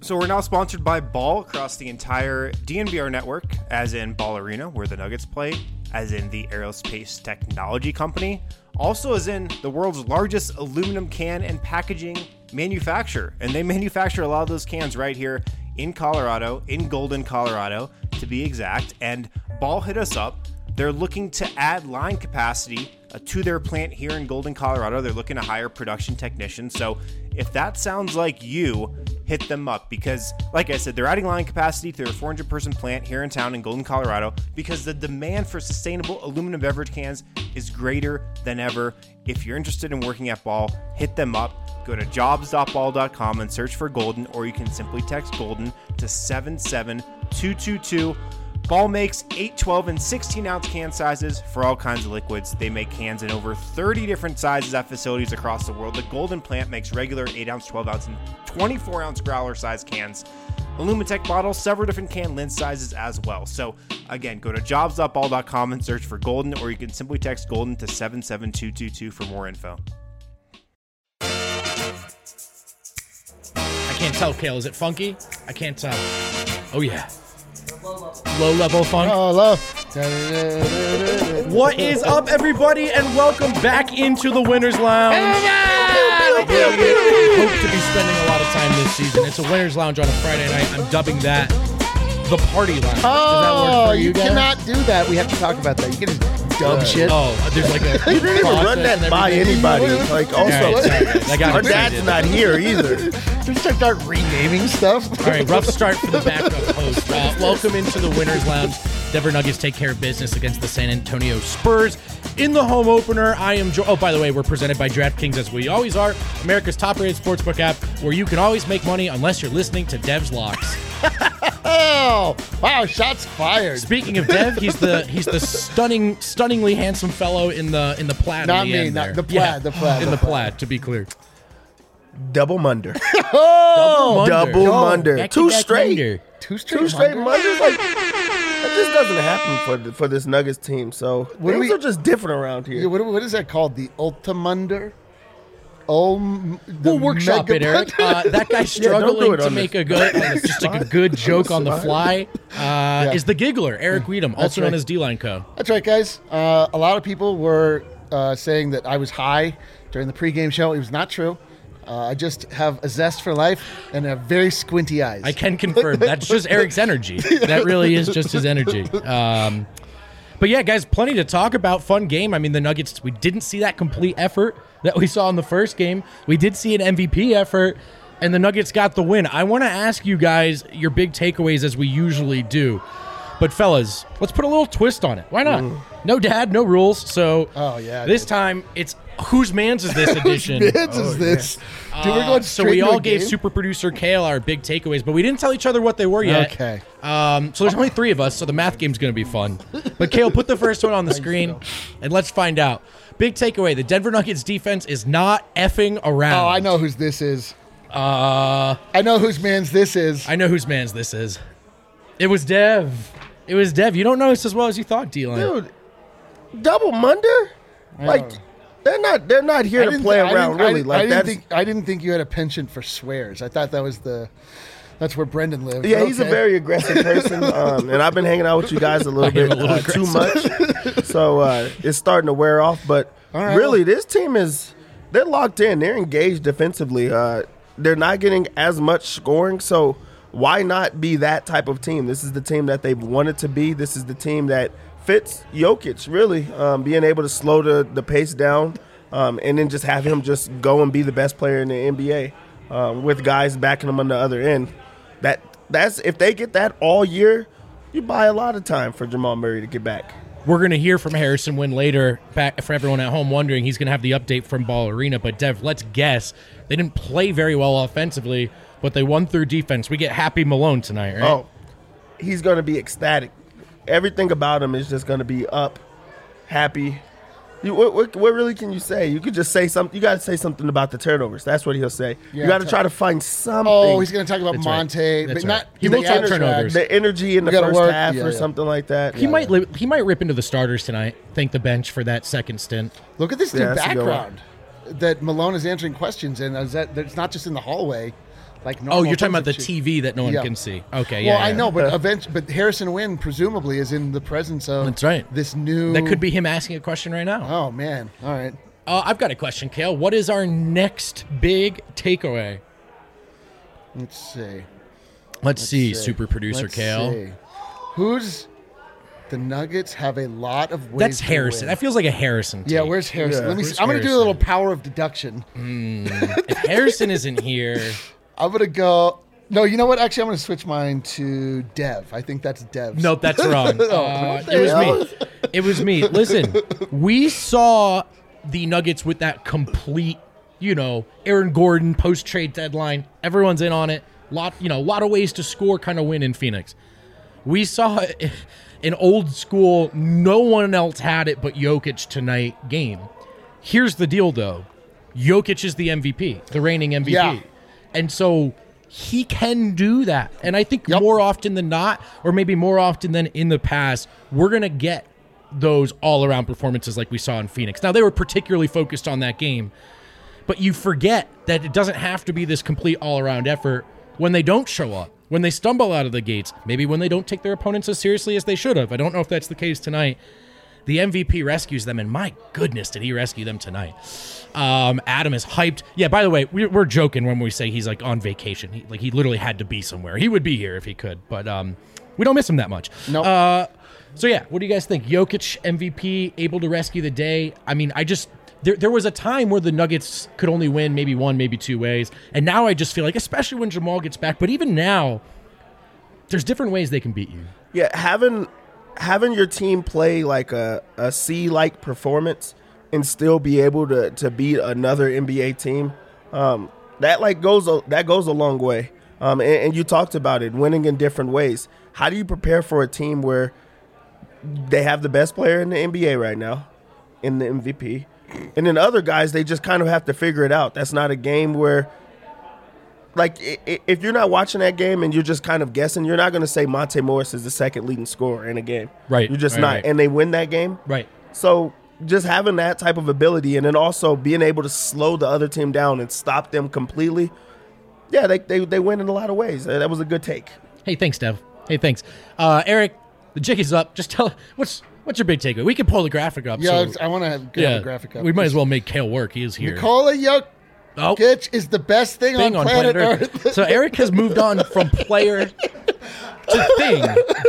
So we're now sponsored by Ball across the entire DNVR network, as in Ball Arena, where the Nuggets play, as in the Aerospace Technology Company, also as in the world's largest aluminum can and packaging manufacturer. And they manufacture a lot of those cans right here in Colorado, in Golden, Colorado, to be exact. And Ball hit us up. They're looking to add line capacity to their plant here in Golden, Colorado. They're looking to hire production technicians. So if that sounds like you, hit them up, because like I said, they're adding line capacity to their 400-person plant here in town in Golden, Colorado, because the demand for sustainable aluminum beverage cans is greater than ever. If you're interested in working at Ball, hit them up. Go to jobs.ball.com and search for Golden, or you can simply text Golden to 77222. Ball makes 8, 12, and 16-ounce can sizes for all kinds of liquids. They make cans in over 30 different sizes at facilities across the world. The Golden plant makes regular 8-ounce, 12-ounce, and 24-ounce growler-size cans. Illumitech bottles, several different can lid sizes as well. So, again, go to jobs.ball.com and search for Golden, or you can simply text Golden to 77222 for more info. I can't tell, Kale. Is it funky? I can't tell. Oh, yeah. Low-level funk. Oh, low. What is up, everybody, and welcome back into the Winners Lounge. Hope to be spending a lot of time this season. It's a Winners Lounge on a Friday night. I'm dubbing that the Party Lounge. Does that work for you guys? Cannot do that. We have to talk about that. You can just dub shit. Oh, there's like a... You didn't even run that by anybody. Like, also, our dad's not here either. Just start renaming stuff. All right, rough start for the backup host. Welcome into the Winners Lounge. Denver Nuggets take care of business against the San Antonio Spurs in the home opener. I am Oh, by the way, we're presented by DraftKings, as we always are, America's top-rated sportsbook app, where you can always make money unless you're listening to Dev's Locks. Oh, wow, shots fired. Speaking of Dev, he's the stunningly handsome fellow in the plaid. Not on the me, end not there. the plaid, the plaid. In the plaid, to be clear. Double Munder. Oh, Double Munder. Back-to-back Two straight. Munder. Two straight Munders. Like, that just doesn't happen for this Nuggets team. So things are just different around here. What is that called? The Ultimunder? We'll workshop it, Eric. That guy struggling to make a good joke on the fly is the Giggler, Eric Weedham, also known as D-Line Co. That's right, guys. A lot of people were saying that I was high during the pregame show. It was not true. I just have a zest for life and have very squinty eyes. I can confirm. That's just Eric's energy. That really is just his energy. But yeah, guys, plenty to talk about. Fun game. I mean, the Nuggets, we didn't see that complete effort that we saw in the first game. We did see an MVP effort, and the Nuggets got the win. I want to ask you guys your big takeaways, as we usually do. But fellas, let's put a little twist on it. Why not? No dad, no rules. So this time it's whose man's is this edition? Whose man's is this? Dude, we're going so we all gave super producer Kale our big takeaways, but we didn't tell each other what they were yet. Okay. So there's only 3 of us, so the math game's going to be fun. But Kale, put the first one on the screen, and let's find out. Big takeaway: the Denver Nuggets defense is not effing around. Oh, I know whose this is. I know whose man's this is. I know whose man's this is. It was Dev. It was Dev. You don't know this as well as you thought, D-Line. Dude, Double Munder? Like, they're not here to play around, really. I didn't think you had a penchant for swears. I thought that's where Brendan lived. Yeah, he's a very aggressive person, and I've been hanging out with you guys a little bit too much, so it's starting to wear off. But really, this team they're locked in. They're engaged defensively. They're not getting as much scoring, so why not be that type of team? This is the team that they've wanted to be. This is the team that fits Jokic, really, being able to slow the pace down and then just have him just go and be the best player in the NBA with guys backing him on the other end. That's if they get that all year, you buy a lot of time for Jamal Murray to get back. We're going to hear from Harrison Wind later. Back for everyone at home wondering, he's going to have the update from Ball Arena. But Dev, let's guess. They didn't play very well offensively, but they won through defense. We get Happy Malone tonight, right? Oh, he's going to be ecstatic. Everything about him is just going to be up, happy. What really can you say? You could just say something. You got to say something about the turnovers. That's what he'll say. Yeah, you got to try to find something. Oh, he's going to talk about Monte, but not he will talk turnovers. The energy in the first half or something like that. He might rip into the starters tonight. Thank the bench for that second stint. Look at this dude background. that Malone is answering questions in. Is that it's not just in the hallway. Like normal you're talking about the things TV that no one can see. Okay, well, I know, but but Harrison Wynn presumably is in the presence of That's right. this new. That could be him asking a question right now. Oh man! All right. I've got a question, Kale. What is our next big takeaway? Let's see. Let's see, super producer Kale. See. Who's the Nuggets have a lot of ways. That's to Harrison. win. That feels like a Harrison take. Yeah, where's Harrison? Yeah. Let me. Where's I'm going to do a Harrison? little power of deduction. If Harrison isn't here, I'm going to go. No, you know what? Actually, I'm going to switch mine to Dev. I think that's Dev's. nope, that's wrong. It was hell? me. It was me. Listen, we saw the Nuggets with that complete, Aaron Gordon post-trade deadline. Everyone's in on it. Lot of ways to score, kind of win in Phoenix. We saw an old school, no one else had it but Jokic tonight game. Here's the deal, though. Jokic is the MVP, the reigning MVP. Yeah. And so he can do that. And I think more often than not, or maybe more often than in the past, we're going to get those all-around performances like we saw in Phoenix. Now, they were particularly focused on that game, but you forget that it doesn't have to be this complete all-around effort when they don't show up, when they stumble out of the gates, maybe when they don't take their opponents as seriously as they should have. I don't know if that's the case tonight. The MVP rescues them, and my goodness, did he rescue them tonight. Adam is hyped. Yeah, by the way, we're joking when we say he's like on vacation. He literally had to be somewhere. He would be here if he could, but we don't miss him that much. Nope. So yeah, what do you guys think? Jokic MVP, able to rescue the day. I mean, there was a time where the Nuggets could only win maybe one, maybe two ways, and now I just feel like, especially when Jamal gets back, but even now, there's different ways they can beat you. Yeah, having your team play like a C-like performance and still be able to beat another NBA team, that goes a long way. And you talked about it, winning in different ways. How do you prepare for a team where they have the best player in the NBA right now, in the MVP, and then other guys, they just kind of have to figure it out. That's not a game where, like, if you're not watching that game and you're just kind of guessing, you're not going to say Monte Morris is the second leading scorer in a game. Right. You're just Right, not. right. And they win that game. Right. So just having that type of ability and then also being able to slow the other team down and stop them completely, yeah, they win in a lot of ways. That was a good take. Hey, thanks, Dev. Hey, thanks. Eric, the jig is up. Just tell what's your big takeaway? We can pull the graphic up. Yeah, so, I want to have a graphic up. We might as well make Kale work. He is here. Nikola Jokic is the best thing on planet Earth. So Eric has moved on from player to thing.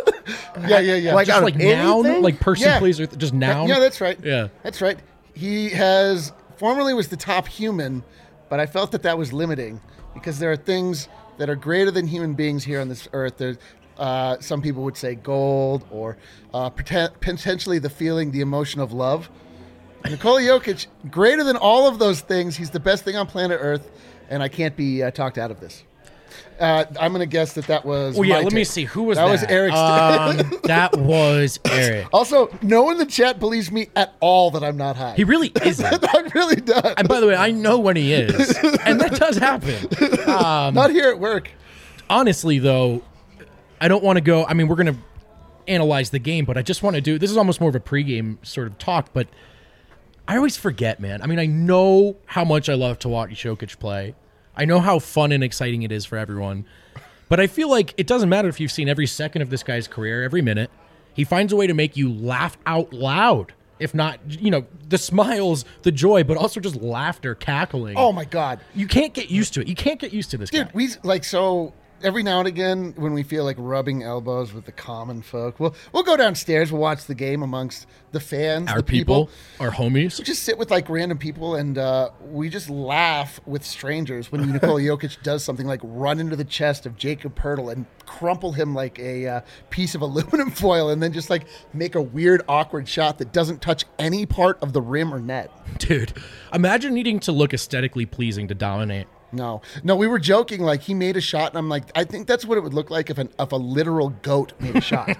Yeah. Like, Just out like of noun, anything? like person, Yeah. please, or just noun. Yeah, that's right. Yeah. That's right. He has formerly was the top human, but I felt that was limiting because there are things that are greater than human beings here on this earth. There's some people would say gold or potentially the emotion of love. Nikola Jokic, greater than all of those things. He's the best thing on planet Earth, and I can't be talked out of this. I'm going to guess that was. Oh yeah, my let me take. see. Who was that? That was Eric's. That was Eric. Also, no one in the chat believes me at all that I'm not high. He really isn't. I really does. And by the way, I know when he is, and that does happen. Not here at work. Honestly, though, I don't want to go. I mean, we're going to analyze the game, but I just want to do. This is almost more of a pregame sort of talk, but I always forget, man. I mean, I know how much I love to watch Jokic play. I know how fun and exciting it is for everyone. But I feel like it doesn't matter if you've seen every second of this guy's career, every minute. He finds a way to make you laugh out loud. If not, the smiles, the joy, but also just laughter, cackling. Oh, my God. You can't get used to it. You can't get used to this Dude, guy. Every now and again, when we feel like rubbing elbows with the common folk, we'll go downstairs, we'll watch the game amongst the fans, Our the people. Our homies. We just sit with like random people and we just laugh with strangers when Nikola Jokic does something like run into the chest of Jacob Poeltl and crumple him like a piece of aluminum foil and then just like make a weird, awkward shot that doesn't touch any part of the rim or net. Dude, imagine needing to look aesthetically pleasing to dominate. No, we were joking. Like he made a shot, and I'm like, I think that's what it would look like if a literal goat made a shot.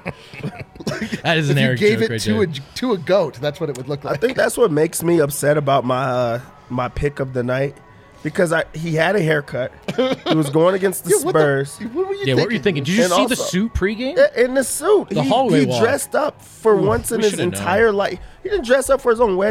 That is an if you Eric gave joke it right to a goat, that's what it would look like. I think that's what makes me upset about my pick of the night because he had a haircut. He was going against the Spurs. What were you Yeah, thinking? what were you thinking? Did you And see the also- suit pregame? In the suit. The hallway he walk. dressed up for once in we his should've known. entire life. He didn't dress up for his own wedding.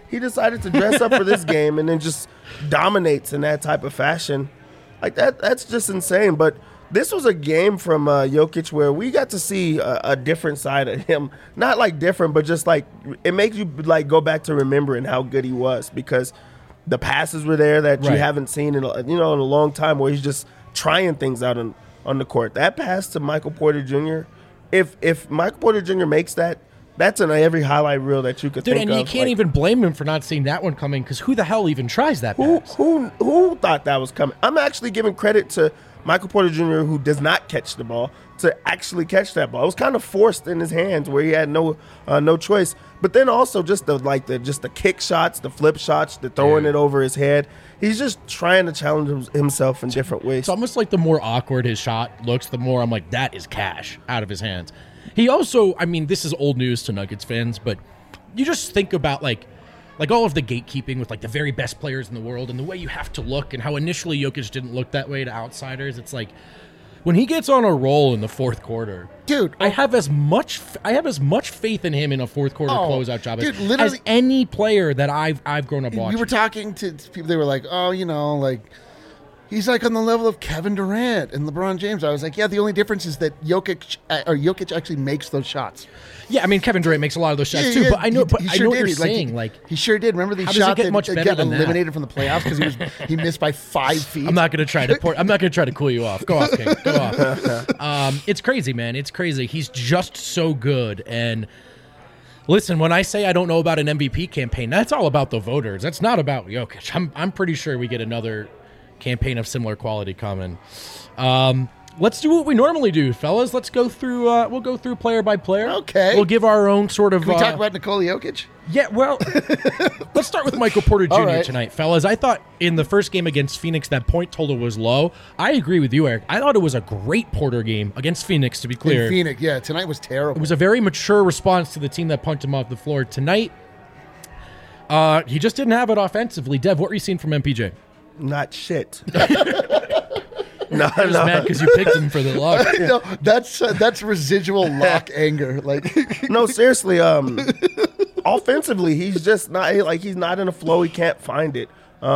he decided to dress up for this game and then just dominates in that type of fashion. Like that's just insane. But this was a game from Jokic where we got to see a different side of him. Not like different, but just like it makes you like go back to remembering how good he was, because the passes were there that you haven't seen in in a long time, where he's just trying things out on the court. That pass to Michael Porter Jr., if Michael Porter Jr. makes that, that's in every highlight reel that you could think of. Dude, and you can't even blame him for not seeing that one coming, because who the hell even tries that pass? Who thought that was coming? I'm actually giving credit to Michael Porter Jr., who does not catch the ball, to actually catch that ball. It was kind of forced in his hands where he had no choice. But then also just the kick shots, the flip shots, the throwing it over his head. He's just trying to challenge himself in different ways. It's almost like the more awkward his shot looks, the more I'm like, that is cash out of his hands. He also, I mean, this is old news to Nuggets fans, but you just think about like all of the gatekeeping with like the very best players in the world and the way you have to look, and how initially Jokic didn't look that way to outsiders. It's like when he gets on a roll in the fourth quarter, dude, I have as much faith in him in a fourth quarter closeout job as any player that I've grown up watching. We were talking to people, they were like, oh, like he's like on the level of Kevin Durant and LeBron James. I was like, yeah, the only difference is that Jokic actually makes those shots. Yeah, I mean, Kevin Durant makes a lot of those shots too, but I know what you're saying. He sure did. Remember the shot that got eliminated from the playoffs because he missed by 5 feet. I'm not going to try to cool you off. Go off, King. Go off. It's crazy, man. It's crazy. He's just so good. And listen, when I say I don't know about an MVP campaign, that's all about the voters. That's not about Jokic. I'm pretty sure we get another campaign of similar quality coming. Let's do what we normally do, fellas. Let's go through. We'll go through player by player. Okay. We'll give our own sort of. Can we talk about Nikola Jokic? Yeah. Well, let's start with Michael Porter Jr. tonight, fellas. I thought in the first game against Phoenix that point total was low. I agree with you, Eric. I thought it was a great Porter game against Phoenix. To be clear, Phoenix. Yeah, tonight was terrible. It was a very mature response to the team that punched him off the floor tonight. He just didn't have it offensively. Dev, what were you seeing from MPJ? Not shit. No. Mad because you picked him for the lock. No, that's residual lock anger. Like, no, seriously. Offensively, he's just not he's not in a flow. He can't find it.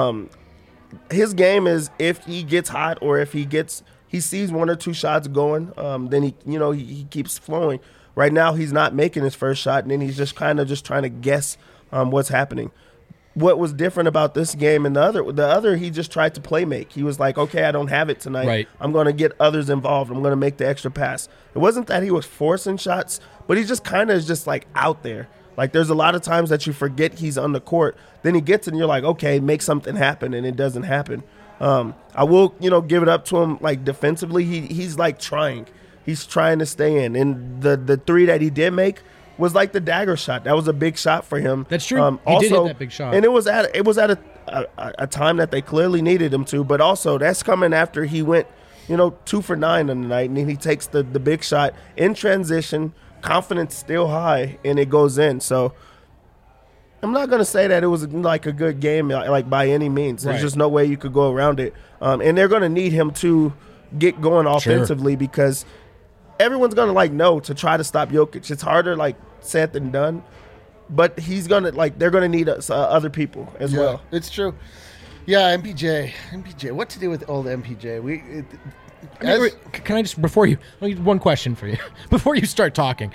His game is if he gets hot or if he sees one or two shots going, then he keeps flowing. Right now, he's not making his first shot, and then he's just kind of just trying to guess what's happening. What was different about this game and the other, he just tried to play make. He was like, okay, I don't have it tonight. Right. I'm going to get others involved. I'm going to make the extra pass. It wasn't that he was forcing shots, but he just kind of is just like out there. Like there's a lot of times that you forget he's on the court. Then he gets and you're like, okay, make something happen, and it doesn't happen. I will, give it up to him. Like defensively, he's like trying. He's trying to stay in. And the three that he did make was like the dagger shot. That was a big shot for him. That's true. He did hit that big shot. And it was at a time that they clearly needed him to, but also that's coming after he went, 2 for 9 on the night, and then he takes the big shot in transition, confidence still high, and it goes in. So I'm not going to say that it was like a good game, like by any means. There's just no way you could go around it. And they're going to need him to get going offensively because everyone's going to know to try to stop Jokic. It's harder said than done, but he's going to they're going to need other people as well. It's true. Yeah, MPJ. What to do with old MPJ? Can I just one question for you before you start talking?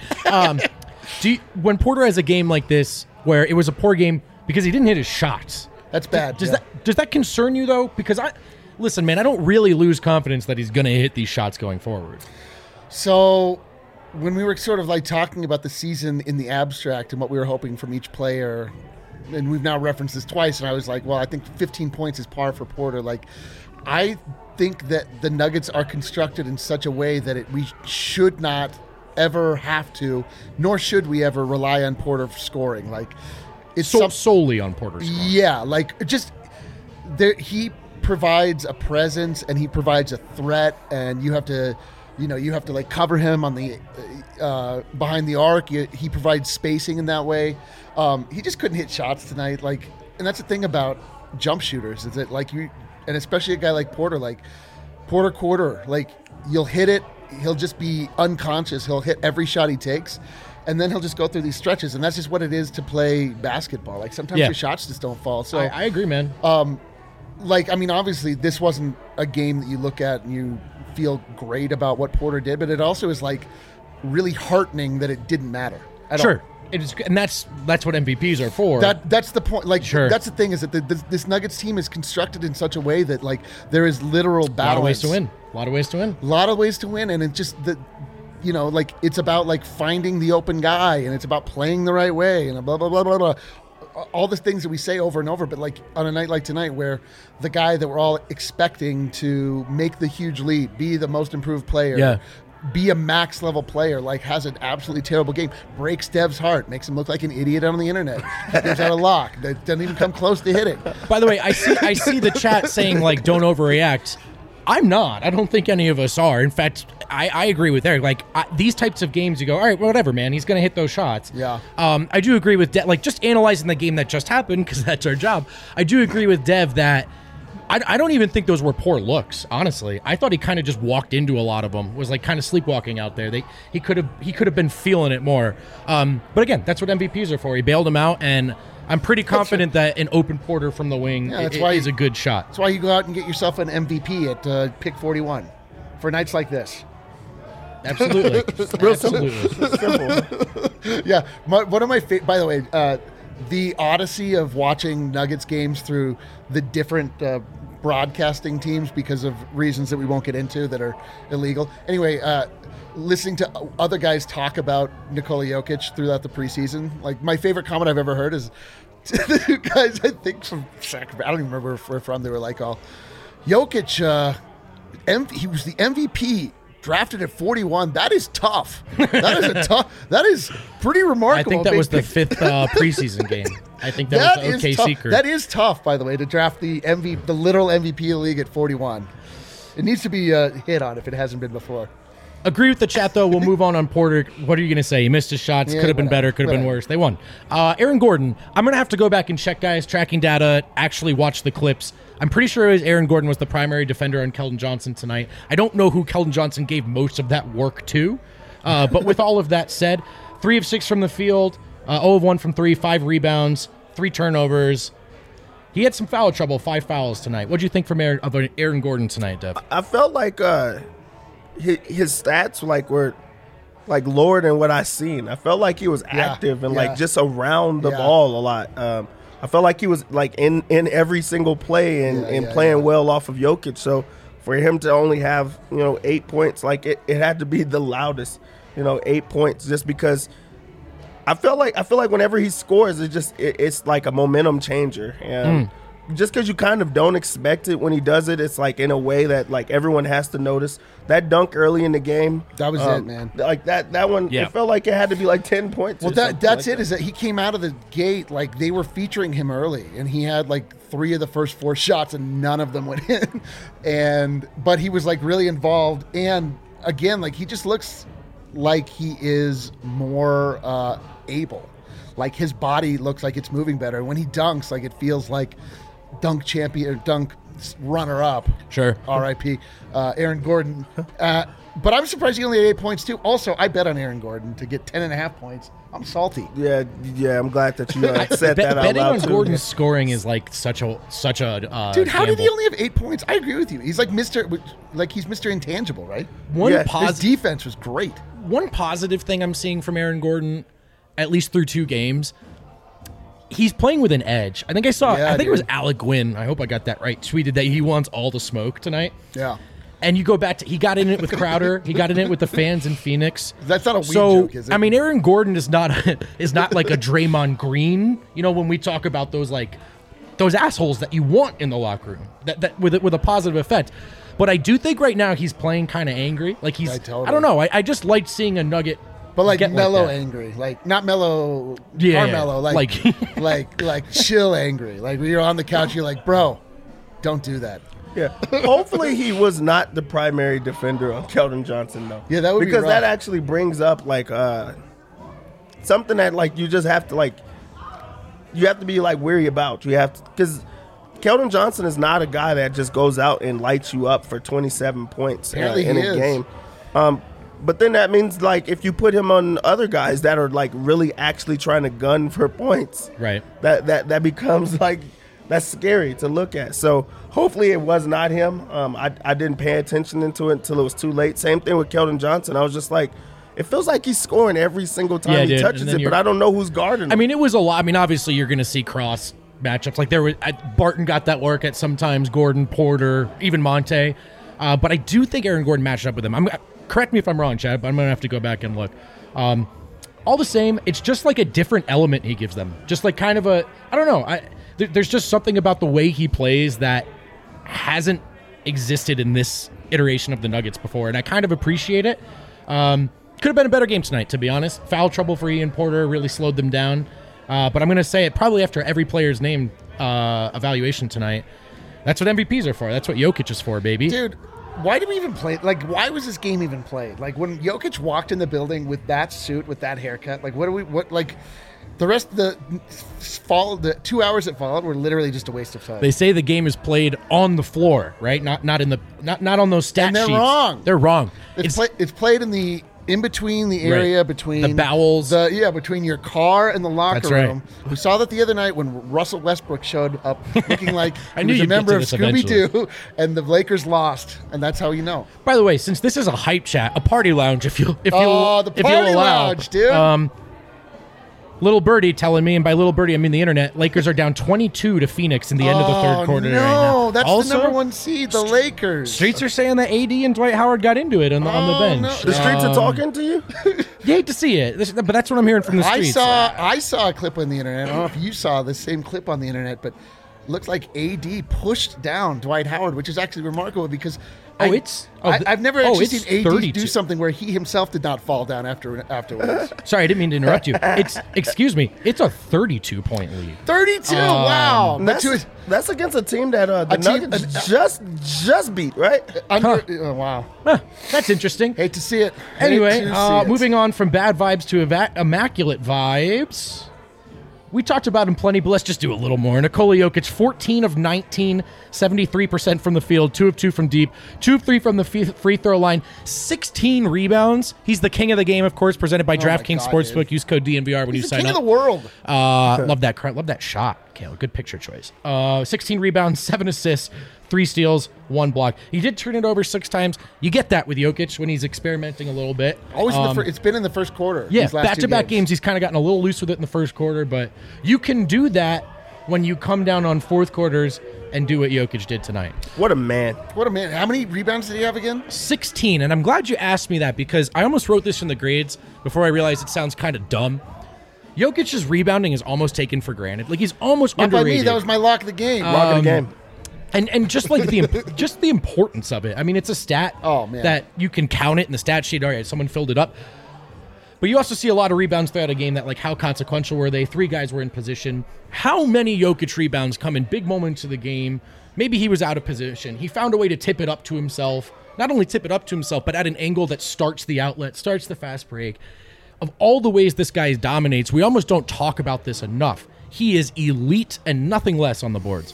When Porter has a game like this where it was a poor game because he didn't hit his shots, that's bad. Does that concern you though? Because listen, man, I don't really lose confidence that he's going to hit these shots going forward. So when we were sort of talking about the season in the abstract and what we were hoping from each player, and we've now referenced this twice, and I was like, well, I think 15 points is par for Porter. I think that the Nuggets are constructed in such a way that we should not ever have to, nor should we ever rely on Porter for scoring. It's solely on Porter scoring. Yeah, he provides a presence and he provides a threat, and you have to cover him on the behind the arc. He provides spacing in that way. He just couldn't hit shots tonight. And that's the thing about jump shooters is that and especially a guy like Porter, quarter, you'll hit it. He'll just be unconscious. He'll hit every shot he takes. and then he'll just go through these stretches, and that's just what it is to play basketball. Like sometimes your shots just don't fall. So I agree, man. Obviously this wasn't a game that you look at and you feel great about what Porter did, but it also is like really heartening that it didn't matter at all. It is, and that's what MVPs are for. That's the point. Like, that's the thing is that this Nuggets team is constructed in such a way that like there is literal balance. A lot of ways to win, and it's just that, like it's about like finding the open guy, and it's about playing the right way, and blah blah blah blah blah. All the things that we say over and over, but like on a night like tonight, where the guy that we're all expecting to make the huge leap, be the most improved player, be a max level player, like has an absolutely terrible game, breaks Dev's heart, makes him look like an idiot on the internet, gives out a lock that doesn't even come close to hitting. By the way, I see the chat saying like don't overreact. I'm not. I don't think any of us are. In fact, I agree with Eric. Like these types of games, you go, all right, whatever, man. He's going to hit those shots. Yeah. I do agree with Dev. Like just analyzing the game that just happened because that's our job. I do agree with Dev that I don't even think those were poor looks. Honestly, I thought he kind of just walked into a lot of them. Was like kind of sleepwalking out there. He could have been feeling it more. But again, that's what MVPs are for. He bailed him out, and I'm pretty confident that an open Porter from the wing is a good shot. That's why you go out and get yourself an MVP at pick 41 for nights like this. Absolutely. Real simple. Yeah. One of my by the way, the odyssey of watching Nuggets games through the different broadcasting teams because of reasons that we won't get into that are illegal. Anyway, listening to other guys talk about Nikola Jokic throughout the preseason, like my favorite comment I've ever heard is the guys, I think from Sacramento, I don't even remember where from, they were like, Jokic, he was the MVP, drafted at 41. That is tough. That is pretty remarkable. I think that was the fifth preseason game. I think that was the OKC crew. That is tough, by the way, to draft the literal MVP of the league at 41. It needs to be hit on if it hasn't been before. Agree with the chat, though. We'll move on Porter. What are you going to say? He missed his shots. Could have been better. Could have been worse. They won. Aaron Gordon. I'm going to have to go back and check, guys. Tracking data. Actually watch the clips. I'm pretty sure Aaron Gordon was the primary defender on Keldon Johnson tonight. I don't know who Keldon Johnson gave most of that work to. But with all of that said, 3 of 6 from the field, 0 of 1 from 3, 5 rebounds, 3 turnovers. He had some foul trouble, 5 fouls tonight. What do you think from Aaron Gordon tonight, Dev? I felt like his stats were lower than what I seen. I felt like he was active and just around the ball a lot. I felt like he was like in every single play and playing well off of Jokic. So for him to only have 8 points, like it had to be the loudest, 8 points, just because I feel like whenever he scores, it's like a momentum changer. And just because you kind of don't expect it when he does it, it's like in a way that like everyone has to notice. That dunk early in the game, that was it, man. Like that one, it felt like it had to be like 10 points. Well, that's it. Is that he came out of the gate like they were featuring him early, and he had like 3 of the first 4 shots, and none of them went in. But he was like really involved, and again, like he just looks like he is more able. Like his body looks like it's moving better. When he dunks, like it feels like dunk champion or dunk runner-up. Sure. R.I.P. Aaron Gordon. But I'm surprised he only had 8 points, too. Also, I bet on Aaron Gordon to get 10.5 points. I'm salty. Yeah, I'm glad that you said that out loud, betting on too. Gordon's scoring is like such a dude, how gamble. did he only have 8 points? I agree with you. He's like he's Mr. Intangible, right? His defense was great. One positive thing I'm seeing from Aaron Gordon, at least through 2 games, he's playing with an edge. I think I saw. I think it was Alec Gwynn. I hope I got that right. Tweeted that he wants all the smoke tonight. Yeah. And you go back to he got in it with Crowder. He got in it with the fans in Phoenix. That's not a weed joke, is it? I mean, Aaron Gordon is not like a Draymond Green. When we talk about those assholes that you want in the locker room, that with a positive effect. But I do think right now he's playing kind of angry. Like he's. Totally. I don't know. I just like seeing a Nugget. But like mellow angry, like not mellow, Carmelo, like chill angry. Like when you're on the couch, you're like, bro, don't do that. Yeah. Hopefully he was not the primary defender on Keldon Johnson, though. Yeah, that would be because rough. that actually brings up like something that like you just have to be like weary about. You have to, because Keldon Johnson is not a guy that just goes out and lights you up for 27 points in a game. But then that means, like, if you put him on other guys that are, like, really actually trying to gun for points, right? That becomes, like, that's scary to look at. So hopefully it was not him. I didn't pay attention into it until it was too late. Same thing with Keldon Johnson. I was just like, it feels like he's scoring every single time he touches it, but I don't know who's guarding him. I mean, it was a lot. I mean, obviously you're going to see cross matchups. Like there was Barton got that work at sometimes, Gordon, Porter, even Monte. But I do think Aaron Gordon matched up with him. Correct me if I'm wrong, Chad, but I'm going to have to go back and look. All the same, it's just like a different element he gives them. Just like kind of a, I don't know. There's just something about the way he plays that hasn't existed in this iteration of the Nuggets before, and I kind of appreciate it. Could have been a better game tonight, to be honest. Foul trouble for Ian Porter really slowed them down. But I'm going to say it probably after every player's name evaluation tonight. That's what MVPs are for. That's what Jokic is for, baby. Dude, why did we even play? Like, why was this game even played? Like, when Jokic walked in the building with that suit, with that haircut, like, the rest of the 2 hours that followed were literally just a waste of time. They say the game is played on the floor, right? Not on those stat and they're sheets. Wrong. They're wrong. It's played in the in between the area right. between the bowels, between your car and the locker That's room. Right. We saw that the other night when Russell Westbrook showed up looking like I he knew was a you'd get member to of this Scooby-Doo, and the Lakers lost, and that's how you know. By the way, since this is a hype chat, a party lounge, if you the party lounge, dude. Little Birdie telling me, and by Little Birdie I mean the internet, Lakers are down 22 to Phoenix in the end of the third quarter right now. No, that's also, the number one seed, the Lakers. Streets are saying that AD and Dwight Howard got into it on the bench. No. The streets are talking to you? You hate to see it, but that's what I'm hearing from the streets. I saw a clip on the internet. I don't know if you saw the same clip on the internet, but looks like AD pushed down Dwight Howard, which is actually remarkable because I've never actually seen AD 32. do something where he himself did not fall down afterwards. Sorry, I didn't mean to interrupt you. Excuse me. It's a 32-point lead. 32. Wow. That's against a team that the Nuggets just beat, right? Wow. Huh, that's interesting. Hate to see it. Anyway, moving on from bad vibes to immaculate vibes. We talked about him plenty, but let's just do a little more. Nikola Jokic, 14 of 19, 73% from the field, 2 of 2 from deep, 2 of 3 from the free throw line, 16 rebounds. He's the king of the game, of course, presented by DraftKings Sportsbook. Dude. Use code DNVR when you sign up. He's the king of the world. Love that shot, Kale. Good picture choice. 16 rebounds, 7 assists, 3 steals, 1 block. He did turn it over 6 times. You get that with Jokic when he's experimenting a little bit. Always it's been in the first quarter. Yeah, back-to-back games. He's kind of gotten a little loose with it in the first quarter, but you can do that when you come down on fourth quarters and do what Jokic did tonight. What a man. What a man. How many rebounds did he have again? 16, and I'm glad you asked me that because I almost wrote this in the grades before I realized it sounds kind of dumb. Jokic's rebounding is almost taken for granted. Like, he's almost underrated. By me, that was my lock of the game. Lock of the game. And just like the importance of it. I mean, it's a stat that you can count it in the stat sheet. All right, someone filled it up. But you also see a lot of rebounds throughout a game that, like, how consequential were they? 3 guys were in position. How many Jokic rebounds come in big moments of the game? Maybe he was out of position. He found a way to tip it up to himself. Not only tip it up to himself, but at an angle that starts the outlet, starts the fast break. Of all the ways this guy dominates, we almost don't talk about this enough. He is elite and nothing less on the boards.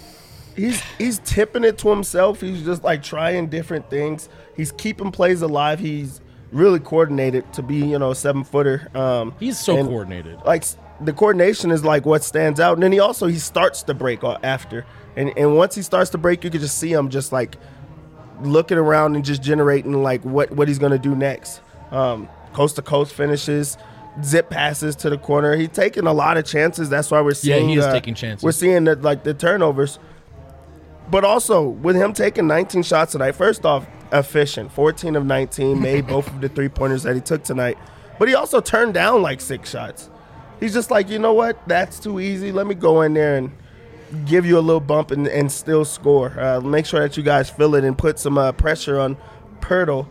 He's tipping it to himself. He's just like trying different things. He's keeping plays alive. He's really coordinated to be, a 7-footer. He's so coordinated. Like, the coordination is like what stands out. And then he starts to break after. And once he starts to break, you can just see him just like looking around and just generating like what he's going to do next. Coast to coast finishes, zip passes to the corner. He's taking a lot of chances. That's why we're seeing he is taking chances. We're seeing the turnovers. But also, with him taking 19 shots tonight, first off, efficient. 14 of 19, made both of the 3-pointers that he took tonight. But he also turned down like 6 shots. He's just like, you know what? That's too easy. Let me go in there and give you a little bump and still score. Make sure that you guys feel it and put some pressure on Pirtle.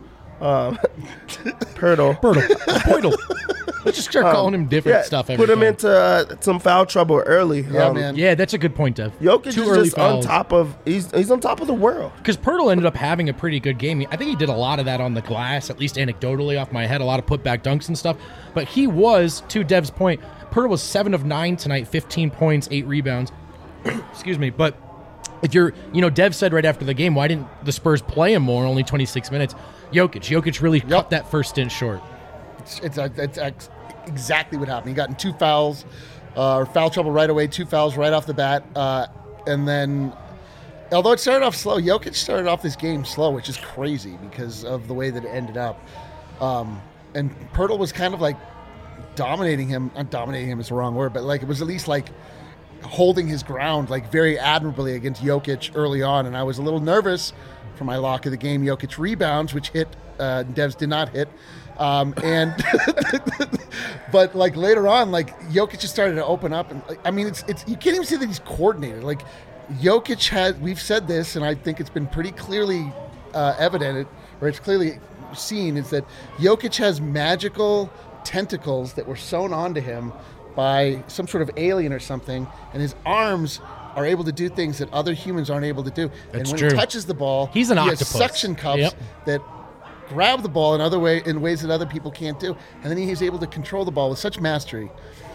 Pirtle. Let's just start calling him different stuff every time. Put him into some foul trouble early. Yeah, man. Yeah, that's a good point, Dev. Jokic is just on top of he's on top of the world. Because Pirtle ended up having a pretty good game. I think he did a lot of that on the glass, at least anecdotally off my head, a lot of putback dunks and stuff. But he was, to Dev's point, Pirtle was 7 of 9 tonight, 15 points, 8 rebounds. Excuse me. But if you're, Dev said right after the game, why didn't the Spurs play him more? Only 26 minutes. Jokic really cut that first stint short. It's exactly what happened. He got in 2 fouls, or foul trouble right away, 2 fouls right off the bat. And then, although it started off slow, Jokic started off this game slow, which is crazy because of the way that it ended up. And Poeltl was kind of like dominating him. Not dominating him is the wrong word, but like it was at least like holding his ground like very admirably against Jokic early on. And I was a little nervous for my lock of the game. Jokic rebounds, which hit, Devs did not hit. And but like later on, like Jokic just started to open up, and I mean, it's you can't even see that he's coordinated. Like Jokic has, we've said this, and I think it's been pretty clearly evident, or it's clearly seen, is that Jokic has magical tentacles that were sewn onto him by some sort of alien or something, and his arms are able to do things that other humans aren't able to do. That's and when true. he touches the ball, he's an octopus. Has suction cups that grab the ball in ways that other people can't do, and then he's able to control the ball with such mastery.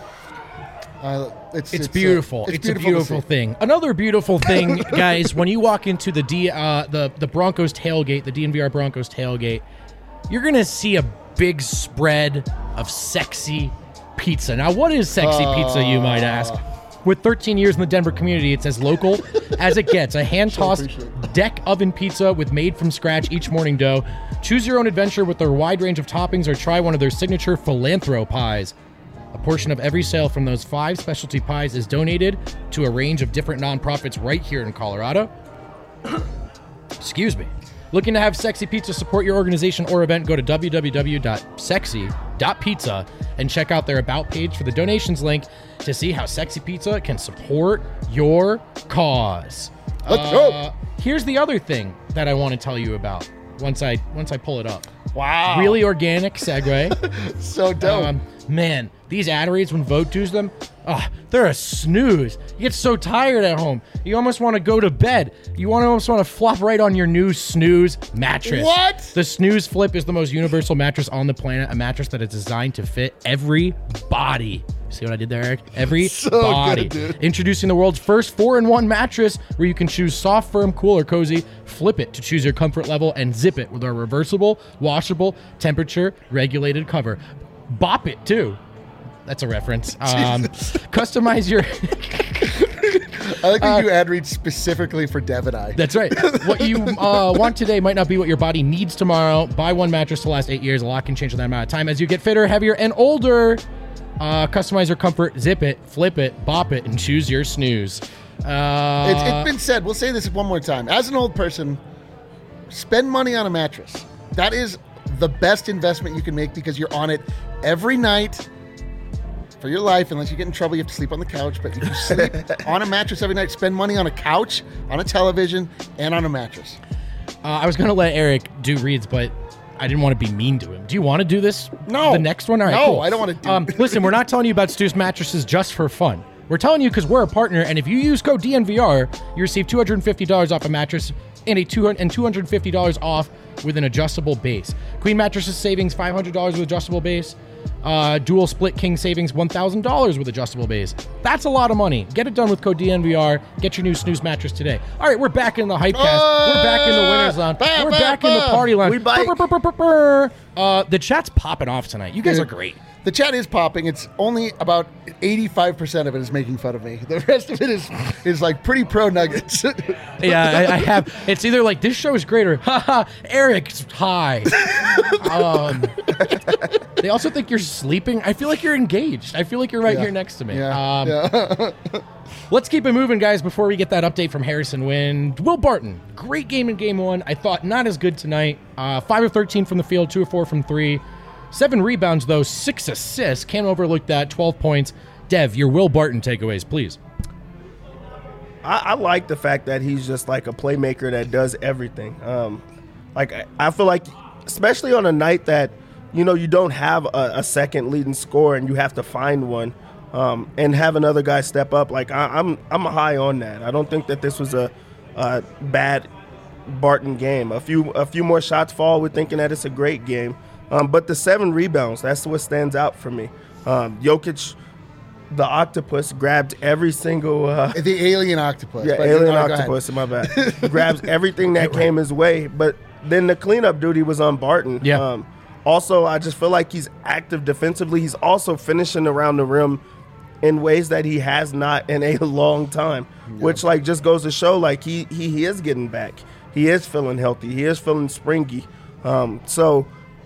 It's beautiful. It's a beautiful thing. Another beautiful thing, guys, when you walk into the Broncos tailgate, the DNVR Broncos tailgate, you're gonna see a big spread of sexy pizza. Now, what is sexy pizza, you might ask? With 13 years in the Denver community, it's as local as it gets. A hand-tossed deck oven pizza with made-from-scratch each morning dough. Choose your own adventure with their wide range of toppings or try one of their signature Philanthro pies. A portion of every sale from those 5 specialty pies is donated to a range of different nonprofits right here in Colorado. Excuse me. Looking to have Sexy Pizza support your organization or event? Go to www.sexy.pizza and check out their About page for the donations link to see how Sexy Pizza can support your cause. Let's go. Here's the other thing that I want to tell you about once I pull it up. Wow. Really organic segue. So dope. Man, these ad reads, when Vogue does them, they're a snooze. You get so tired at home. You almost want to go to bed. You almost want to flop right on your new Snooze mattress. What? The Snooze Flip is the most universal mattress on the planet, a mattress that is designed to fit every body. See what I did there, Eric? Every body. Good, dude. Introducing the world's first 4-in-1 mattress where you can choose soft, firm, cool, or cozy. Flip it to choose your comfort level and zip it with our reversible, washable, temperature-regulated cover. Bop it, too. That's a reference. Customize your... I like that you ad read specifically for Dev and I. That's right. What you want today might not be what your body needs tomorrow. Buy one mattress to last 8 years. A lot can change in that amount of time as you get fitter, heavier, and older. Customize your comfort, zip it, flip it, bop it, and choose your snooze. It's been said. We'll say this one more time. As an old person, spend money on a mattress. That is the best investment you can make because you're on it every night for your life. Unless you get in trouble, you have to sleep on the couch. But if you sleep on a mattress every night, spend money on a couch, on a television, and on a mattress. I was going to let Eric do reads, but I didn't want to be mean to him. Do you want to do this? No. The next one? All right, no, cool. I don't want to do it. Listen, we're not telling you about Stu's mattresses just for fun. We're telling you because we're a partner, and if you use code DNVR, you receive $250 off a mattress and $250 off with an adjustable base. Queen mattresses savings $500 with adjustable base. Dual split king savings $1,000 with adjustable base. That's a lot of money. Get it done with code DNVR. Get your new snooze mattress today. All right, we're back in the Hypecast. We're back in the winner's lounge. We're back in the party lounge. We bike. The chat's popping off tonight. You guys are great. The chat is popping. It's only about 85% of it is making fun of me. The rest of it is like pretty pro Nuggets. Yeah, I have. It's either like this show is great or haha, Eric's high. They also think you're sleeping. I feel like you're engaged. I feel like you're right here next to me. Yeah. Let's keep it moving, guys, before we get that update from Harrison Wind. Will Barton, great game in game one. I thought not as good tonight. 5 of 13 from the field, 2 of 4 from 3. 7 rebounds, though, 6 assists. Can't overlook that. 12 points. Dev, your Will Barton takeaways, please. I like the fact that he's just like a playmaker that does everything. I feel like, especially on a night that, you don't have a second leading scorer and you have to find one and have another guy step up. Like, I'm high on that. I don't think that this was a bad Barton game. A few more shots fall. We're thinking that it's a great game. But the 7 rebounds, that's what stands out for me. Jokic the octopus grabbed every single the alien octopus. yeah, But alien go ahead. octopus in my bad. Grabs everything that came his way, but then the cleanup duty was on Barton. Yeah. Also, I just feel like he's active defensively. He's also finishing around the rim in ways that he has not in a long time, which like just goes to show like he is getting back. He is feeling healthy. He is feeling springy. So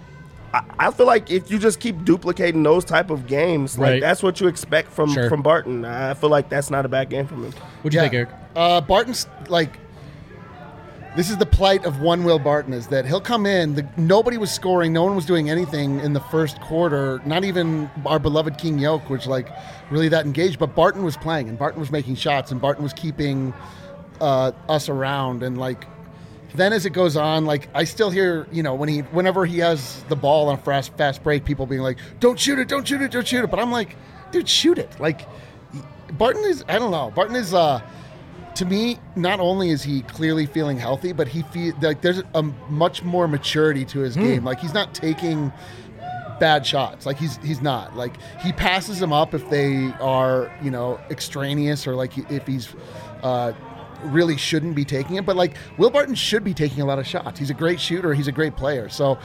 I feel like if you just keep duplicating those type of games, like Right. that's what you expect from Barton. I feel like that's not a bad game from him. What'd you think, Eric? Barton's like, this is the plight of one Will Barton, is that he'll come in. Nobody was scoring. No one was doing anything in the first quarter. Not even our beloved King Yoke was like really that engaged. But Barton was playing, and Barton was making shots, and Barton was keeping us around. And like, then as it goes on, like I still hear, whenever he has the ball on a fast break, people being like, "Don't shoot it! Don't shoot it! Don't shoot it!" But I'm like, dude, shoot it! Like, Barton is, I don't know. Barton is. To me, not only is he clearly feeling healthy, but he feel like there's a much more maturity to his game. Like he's not taking bad shots. Like he's not. Like he passes them up if they are, extraneous, or like if he's really shouldn't be taking it. But like Will Barton should be taking a lot of shots. He's a great shooter. He's a great player. So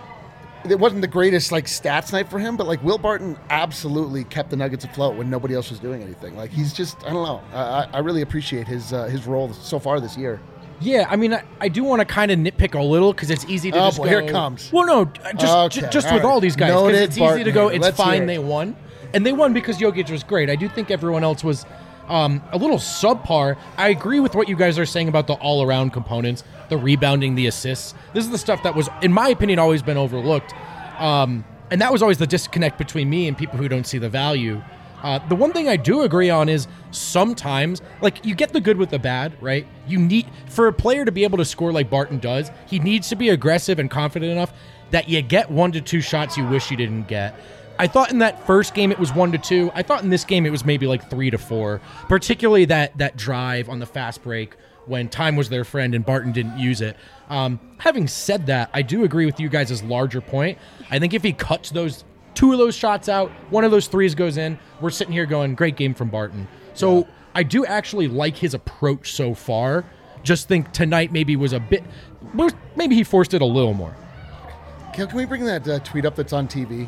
it wasn't the greatest like stats night for him, but like Will Barton absolutely kept the Nuggets afloat when nobody else was doing anything. Like he's just, I don't know. I really appreciate his role so far this year. Yeah, I mean, I do want to kind of nitpick a little because it's easy to just go. Here it comes. Well, no, just with all these guys, because it's easy to go, it's fine, they won. And they won because Jokic was great. I do think everyone else was a little subpar. I agree with what you guys are saying about the all-around components, the rebounding, the assists. This is the stuff that was, in my opinion, always been overlooked. And that was always the disconnect between me and people who don't see the value. The one thing I do agree on is sometimes, like, you get the good with the bad, right? You need, for a player to be able to score like Barton does, he needs to be aggressive and confident enough that you get 1 to 2 shots you wish you didn't get. I thought in that first game it was 1 to 2. I thought in this game it was maybe like 3 to 4, particularly that drive on the fast break when time was their friend and Barton didn't use it. Having said that, I do agree with you guys' larger point. I think if he cuts those 2 of those shots out, 1 of those 3s goes in, we're sitting here going, great game from Barton. So I do actually like his approach so far. Just think tonight maybe was maybe he forced it a little more. Can we bring that tweet up that's on TV?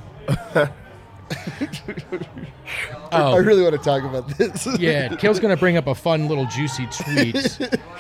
I really want to talk about this. Yeah, Kale's going to bring up a fun little juicy tweet.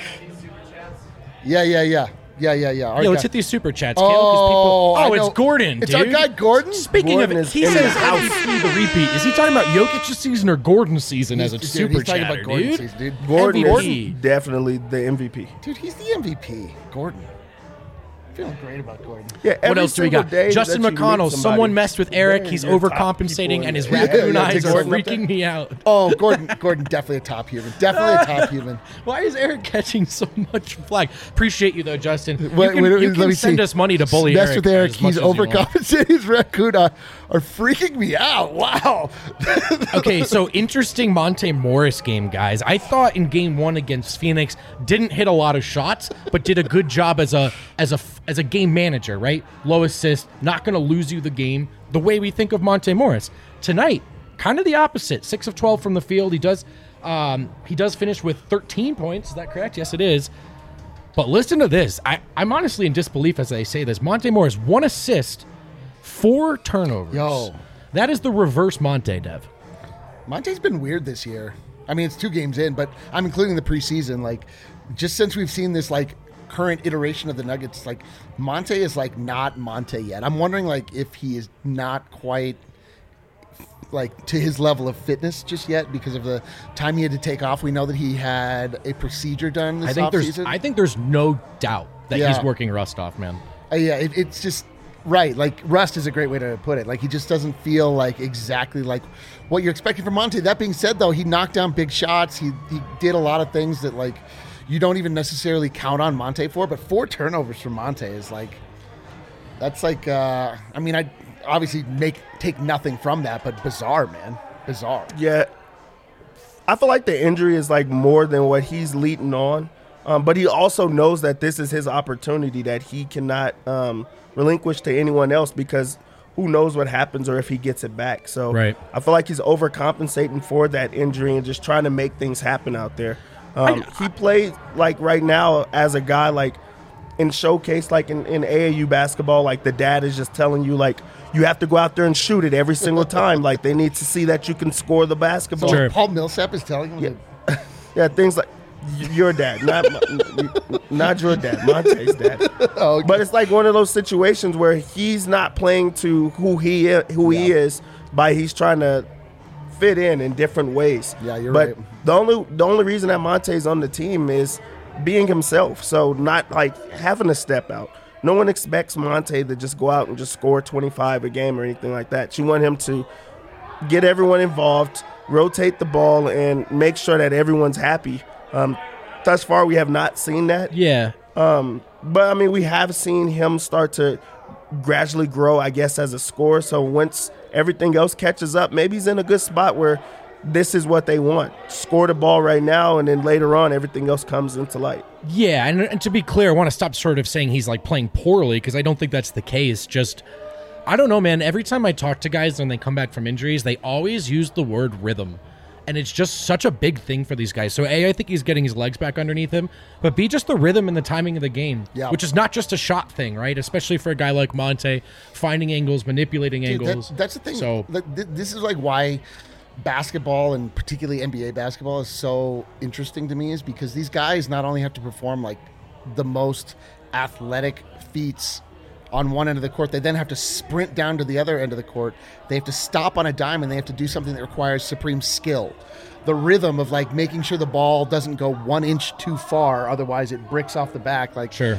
Yeah. Yeah, let's hit these super chats, Kale. It's Gordon, It's dude. our guy, Gordon. Speaking Gordon of it, he is in says the house. MVP the repeat. Is he talking about Jokic's season or Gordon's season as a super he's talking chatter, about Gordon's dude? season, dude. Gordon MVP. is definitely the MVP. Dude, he's the MVP. Gordon. Feeling great about Gordon. Yeah, What every else do we single got? day Justin that you meet McConnell. somebody, Someone messed with Eric. they're He's top people overcompensating, in and his the- raccoon Yeah, eyes take are Gordon up freaking me out. Oh, Gordon definitely a top human. Definitely a top human. Why is Eric catching so much flag? Appreciate you though, Justin. You Wait, can, let you can me send see. us money to bully Mess Eric. with Eric. as much He's as you want. overcompensating. His raccoon are freaking me out. Wow. Okay, so interesting Monte Morris game, guys. I thought in game 1 against Phoenix didn't hit a lot of shots, but did a good job as a game manager, right? Low assist, not going to lose you the game the way we think of Monte Morris. Tonight, kind of the opposite. 6 of 12 from the field. He does finish with 13 points. Is that correct? Yes, it is. But listen to this. I'm honestly in disbelief as I say this. Monte Morris, 1 assist, 4 turnovers. Yo. That is the reverse Monte, Dev. Monte's been weird this year. I mean, it's 2 games in, but I'm including the preseason. Like, just since we've seen this, like, current iteration of the Nuggets, like, Monte is, like, not Monte yet. I'm wondering, like, if he is not quite, like, to his level of fitness just yet because of the time he had to take off. We know that he had a procedure done this offseason. I think there's no doubt that Yeah. he's working rust off, man. It's just right. Like, rust is a great way to put it. Like, he just doesn't feel like exactly like what you're expecting from Monte. That being said, though, he knocked down big shots. He did a lot of things that, like, you don't even necessarily count on Monte for. But 4 turnovers from Monte is like, that's like, I mean, I obviously take nothing from that, but bizarre, man. Bizarre. Yeah, I feel like the injury is like more than what he's leading on, but he also knows that this is his opportunity that he cannot relinquish to anyone else, because who knows what happens or if he gets it back. So Right. I feel like he's overcompensating for that injury and just trying to make things happen out there. He played like right now as a guy like in showcase, like in AAU basketball, like the dad is just telling you like you have to go out there and shoot it every single time. Like they need to see that you can score the basketball. Sure. Paul Millsap is telling him. Yeah, things like your dad, not your dad, Monte's dad. Oh, okay. But it's like one of those situations where he's not playing to who he is, by he's trying to fit in different ways. Yeah, you're but right. The only reason that Monte's on the team is being himself. So not like having to step out. No one expects Monte to just go out and just score 25 a game or anything like that. You want him to get everyone involved, rotate the ball, and make sure that everyone's happy. Thus far, we have not seen that. Yeah. But, I mean, we have seen him start to gradually grow, I guess, as a scorer. So once everything else catches up, maybe he's in a good spot where this is what they want. Score the ball right now, and then later on, everything else comes into light. Yeah, and to be clear, I want to stop sort of saying he's like playing poorly because I don't think that's the case. Just, I don't know, man. Every time I talk to guys when they come back from injuries, they always use the word rhythm. And it's just such a big thing for these guys. So A, I think he's getting his legs back underneath him, but B, just the rhythm and the timing of the game, which is not just a shot thing, right? Especially for a guy like Monte, finding angles, manipulating angles. That's the thing. So This is like why basketball, and particularly NBA basketball, is so interesting to me, is because these guys not only have to perform like the most athletic feats on one end of the court, they then have to sprint down to the other end of the court. They have to stop on a dime, and they have to do something that requires supreme skill. The rhythm of like making sure the ball doesn't go 1 inch too far, otherwise it bricks off the back. Like Sure.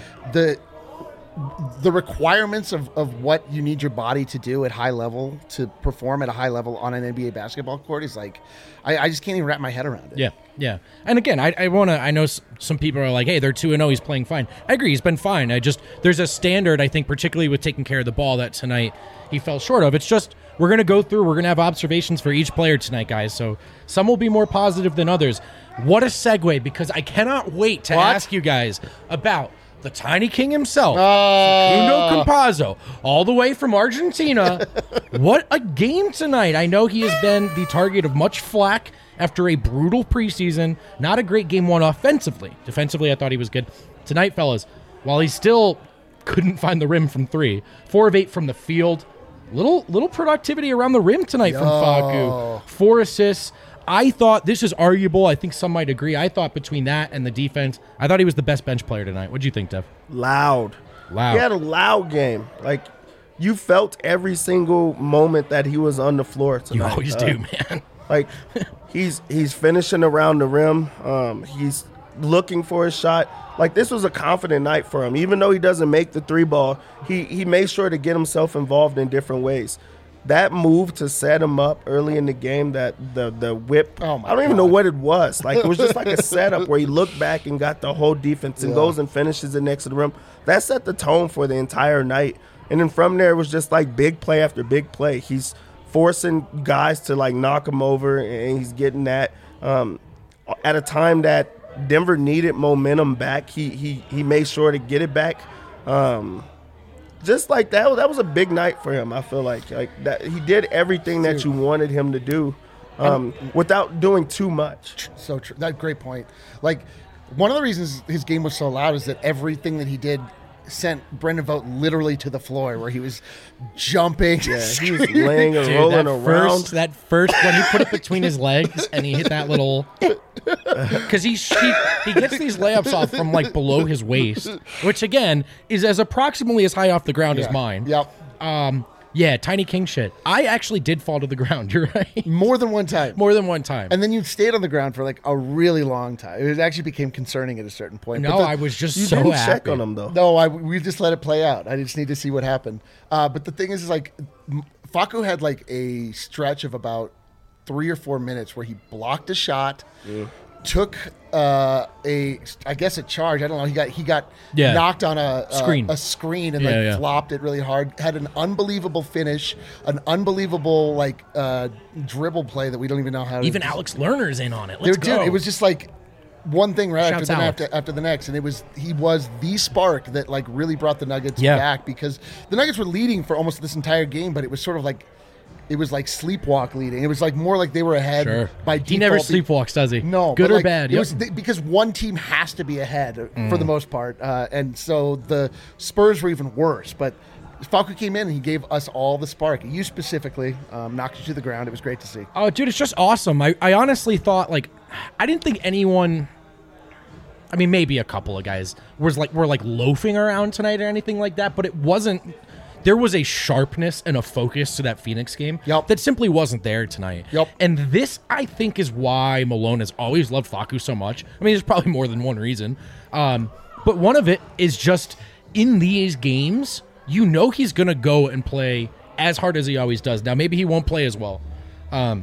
The requirements of what you need your body to do at high level to perform at a high level on an NBA basketball court is like, I just can't even wrap my head around it. Yeah. And again, I know some people are like, hey, they're 2-0, he's playing fine. I agree, he's been fine. There's a standard, I think, particularly with taking care of the ball, that tonight he fell short of. It's just, we're going to go through, we're going to have observations for each player tonight, guys. So some will be more positive than others. What a segue, because I cannot wait to ask you guys about the Tiny King himself, Facundo Campazzo, all the way from Argentina. What a game tonight. I know he has been the target of much flack after a brutal preseason. Not a great game one offensively. Defensively, I thought he was good. Tonight, fellas, while he still couldn't find the rim from 3, 4 of 8 from the field, little productivity around the rim tonight from Facu. 4 assists. I thought, this is arguable, I think some might agree, I thought between that and the defense, I thought he was the best bench player tonight. What'd you think, Dev? Loud. He had a loud game. Like, you felt every single moment that he was on the floor tonight. You always do, man. Like, he's finishing around the rim. He's looking for his shot. Like, this was a confident night for him. Even though he doesn't make the 3 ball, he made sure to get himself involved in different ways. That move to set him up early in the game, that the whip, I don't even know what it was. Like, it was just like a setup where he looked back and got the whole defense and goes and finishes it next to the rim. That set the tone for the entire night. And then from there, it was just like big play after big play. He's forcing guys to like knock him over, and he's getting that. At a time that Denver needed momentum back, he made sure to get it back. Just like that was a big night for him. I feel like that he did everything that you wanted him to do, without doing too much. So true. That's a great point. Like, one of the reasons his game was so loud is that everything that he did sent Brendan Vogt literally to the floor, where he was jumping. Yeah, he was laying and rolling around. That first, when he put it between his legs and he hit that little, because he gets these layups off from like below his waist, which again is as approximately as high off the ground as mine. Yep. Yeah, Tiny King shit. I actually did fall to the ground. You're right. More than one time. And then you stayed on the ground for like a really long time. It actually became concerning at a certain point. No, I was just You so didn't happy. check on him though. No, we just let it play out. I just need to see what happened. But the thing is like, Facu had like a stretch of about 3 or 4 minutes where he blocked a shot, took a charge. I don't know. He got knocked on a screen and flopped it really hard. Had an unbelievable finish, an unbelievable dribble play that we don't even know how. Even Alex Lerner's in on it. Dude, it was just like one thing right Shouts after the next, and he was the spark that like really brought the Nuggets Yeah. back, because the Nuggets were leading for almost this entire game, but it was sort of like sleepwalk leading. It was like more like they were ahead by default. He never sleepwalks, does he? No, good but, or like, bad. It was because one team has to be ahead for the most part, and so the Spurs were even worse. But Facu came in and he gave us all the spark. You specifically knocked you to the ground. It was great to see. Oh, dude, it's just awesome. I honestly thought, like, I didn't think anyone. I mean, maybe a couple of guys were like loafing around tonight or anything like that, but it wasn't. There was a sharpness and a focus to that Phoenix game that simply wasn't there tonight. And this, I think, is why Malone has always loved Facu so much. I mean, there's probably more than one reason. But one of it is just in these games, you know he's going to go and play as hard as he always does. Now, maybe he won't play as well, but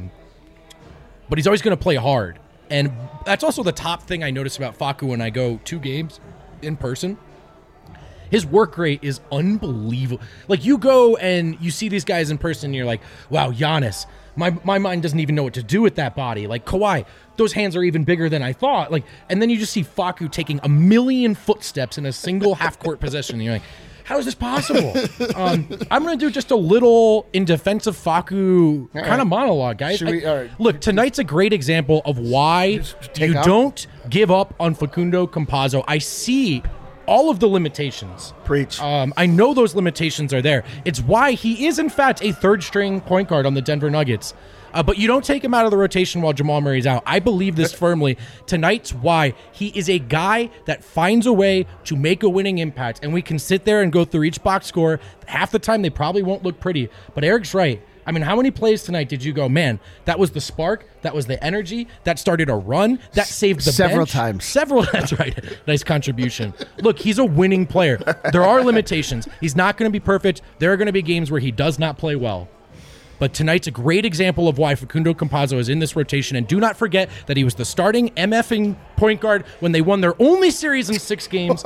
he's always going to play hard. And that's also the top thing I notice about Facu when I go to games in person. His work rate is unbelievable. Like, you go and you see these guys in person and you're like, wow, Giannis, my mind doesn't even know what to do with that body. Like, Kawhi, those hands are even bigger than I thought. Like, and then you just see Facu taking 1,000,000 footsteps in a single half-court possession. And you're like, how is this possible? I'm going to do just a little in defense of Facu kind of monologue, guys. Look, tonight's a great example of why you don't give up on Facundo Campazzo. I see all of the limitations. Preach. I know those limitations are there. It's why he is, in fact, a third-string point guard on the Denver Nuggets. But you don't take him out of the rotation while Jamal Murray's out. I believe this firmly. Tonight's why. He is a guy that finds a way to make a winning impact, and we can sit there and go through each box score. Half the time, they probably won't look pretty. But Eric's right. I mean, how many plays tonight did you go, man, that was the spark, that was the energy, that started a run, that saved the Several bench? times. That's right. Nice contribution. Look, he's a winning player. There are limitations. He's not going to be perfect. There are going to be games where he does not play well. But tonight's a great example of why Facundo Campazzo is in this rotation. And do not forget that he was the starting MFing point guard when they won their only series in 6 games.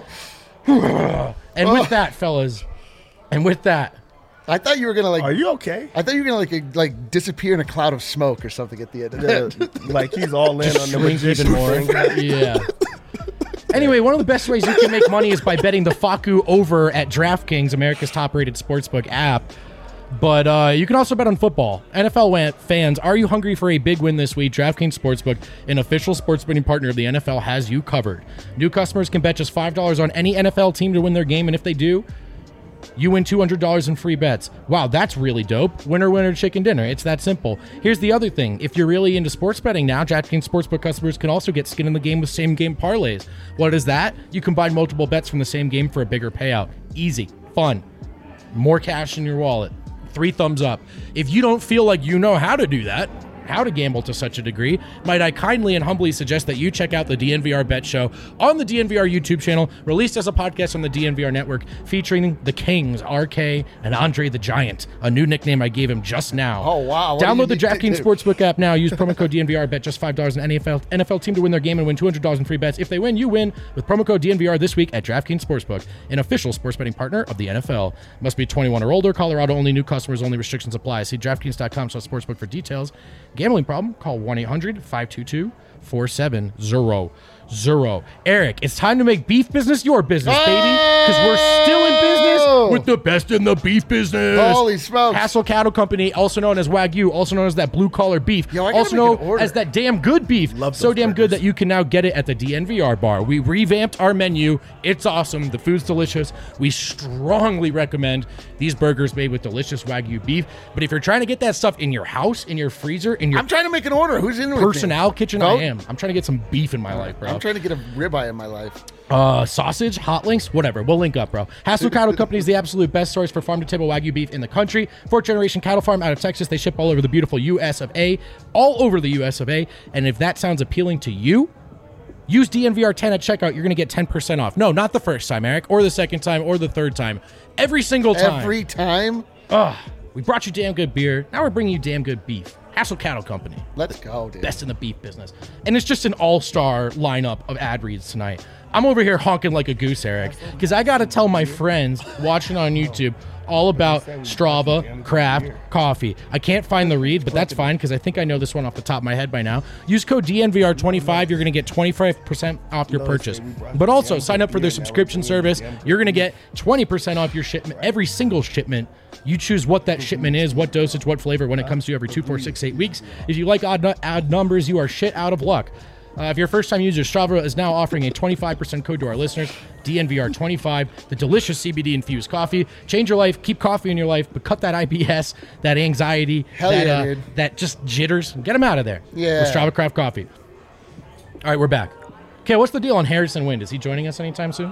And with that, fellas, I thought you were gonna Are you okay? I thought you were gonna like disappear in a cloud of smoke or something at the end. Like he's all in on the magician even more. Yeah. Anyway, one of the best ways you can make money is by betting the Facu over at DraftKings, America's top-rated sportsbook app. But you can also bet on football. NFL fans, are you hungry for a big win this week? DraftKings Sportsbook, an official sports betting partner of the NFL, has you covered. New customers can bet just $5 on any NFL team to win their game, and if they do, you win $200 in free bets. Wow, that's really dope. Winner, winner, chicken dinner. It's that simple. Here's the other thing. If you're really into sports betting now, DraftKings Sportsbook customers can also get skin in the game with same-game parlays. What is that? You combine multiple bets from the same game for a bigger payout. Easy, fun, more cash in your wallet. 3 thumbs up. If you don't feel like you know how to do that, how to gamble to such a degree, might I kindly and humbly suggest that you check out the DNVR Bet Show on the DNVR YouTube channel, released as a podcast on the DNVR network, featuring the Kings, RK, and Andre the Giant, a new nickname I gave him just now. Oh, wow. Download the DraftKings Sportsbook app now. Use promo code DNVR. Bet just $5 on NFL team to win their game and win $200 in free bets. If they win, you win with promo code DNVR this week at DraftKings Sportsbook, an official sports betting partner of the NFL. Must be 21 or older. Colorado only. New customers only. Restrictions apply. See DraftKings.com/sportsbook for details. Gambling problem? Call 1-800-522-4700. Eric, it's time to make beef business your business, baby, because we're still in business with the best in the beef business. Holy smokes. Hassel Cattle Company, also known as Wagyu, also known as that blue-collar beef, Yo, I gotta also make an known order. as that damn good beef. So damn good that you can now get it at the DNVR bar. We revamped our menu. It's awesome. The food's delicious. We strongly recommend these burgers made with delicious Wagyu beef. But if you're trying to get that stuff in your house, in your freezer, in your I'm trying to make an order. Who's in with me? personnel kitchen, Vote? I am. I'm trying to get some beef in my life, bro. I'm trying to get a ribeye in my life. Sausage, hot links, whatever. We'll link up, bro. Hassel Cattle Company is the absolute best source for farm-to-table Wagyu beef in the country. 4th-generation cattle farm out of Texas. They ship all over the beautiful U.S. of A. All over the U.S. of A. And if that sounds appealing to you, use DNVR10 at checkout. You're going to get 10% off. No, not the first time, Eric, or the second time, or the third time. Every single time. Every time? We brought you damn good beer. Now we're bringing you damn good beef. Hassel Cattle Company. Let's go, dude. Best in the beef business. And it's just an all-star lineup of ad reads tonight. I'm over here honking like a goose, Eric, because I got to tell my friends watching on YouTube all about Strava Craft Coffee. I can't find the read, but that's fine because I think I know this one off the top of my head by now. Use code DNVR25. You're going to get 25% off your purchase. But also, sign up for their subscription service. You're going to get 20% off your shipment, every single shipment. You choose what that shipment is, what dosage, what flavor when it comes to you every 2, 4, 6, 8 weeks. If you like odd numbers, you are shit out of luck. If you're a first-time user, Strava is now offering a 25% code to our listeners, DNVR25, the delicious CBD-infused coffee. Change your life, keep coffee in your life, but cut that IBS, that anxiety, that just jitters. Get them out of there with Strava Craft Coffee. All right, we're back. Okay, what's the deal on Harrison Wind? Is he joining us anytime soon?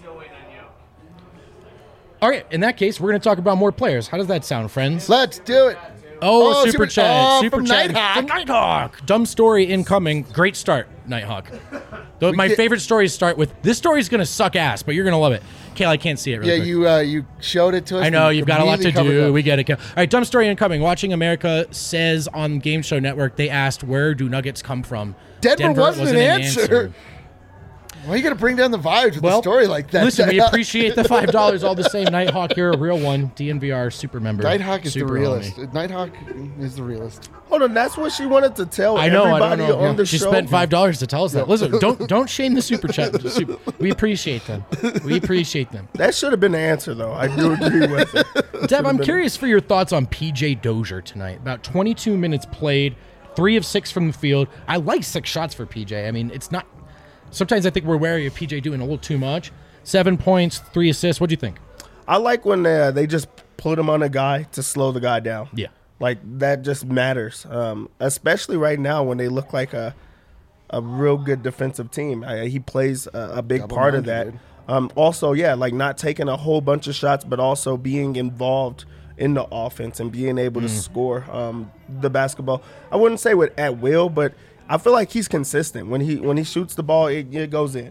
All right, in that case, we're going to talk about more players. How does that sound, friends? Let's do it. Oh, super chat. Super from chat. Nighthawk. From Nighthawk. Dumb story incoming. Great start, Nighthawk. Though my favorite stories start with, this story's going to suck ass, but you're going to love it. Kale, I can't see it really quick. You showed it to us. I know, you've got a lot to do. Up. We get it, Kale. All right, dumb story incoming. Watching America says on Game Show Network, they asked, where do Nuggets come from? Denver wasn't an answer. Why are you going to bring down the vibes with a story like that? Listen, we appreciate the $5 all the same. Nighthawk, you're a real one. DNVR super member. Nighthawk is super the realist. homie. Nighthawk is the realist. Hold on, that's what she wanted to tell I know, everybody on the she show. spent $5 to tell us that. Listen, don't shame the super chat. We appreciate them. We appreciate them. That should have been the answer, though. I do agree with it. Dev, I'm curious for your thoughts on PJ Dozier tonight. About 22 minutes played, 3 of 6 from the field. I like 6 shots for PJ. I mean, it's not. Sometimes I think we're wary of PJ doing a little too much. 7 points, 3 assists. What do you think? I like when they just put him on a guy to slow the guy down. Yeah. Like, that just matters, especially right now when they look like a real good defensive team. He plays a big part of that. Also, like not taking a whole bunch of shots, but also being involved in the offense and being able to score the basketball. I wouldn't say at will, but I feel like he's consistent. When he shoots the ball, it goes in.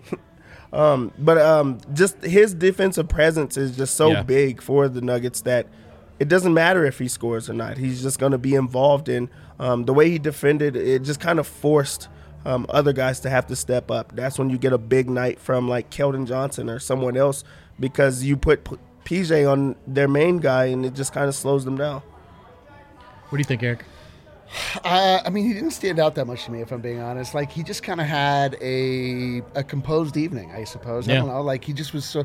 But just his defensive presence is just so big for the Nuggets that it doesn't matter if he scores or not. He's just going to be involved in the way he defended. It just kind of forced other guys to have to step up. That's when you get a big night from like Keldon Johnson or someone else because you put PJ on their main guy and it just kind of slows them down. What do you think, Eric? I mean, he didn't stand out that much to me, if I'm being honest. Like, he just kind of had a composed evening, I suppose. I don't know. Like, he just was so...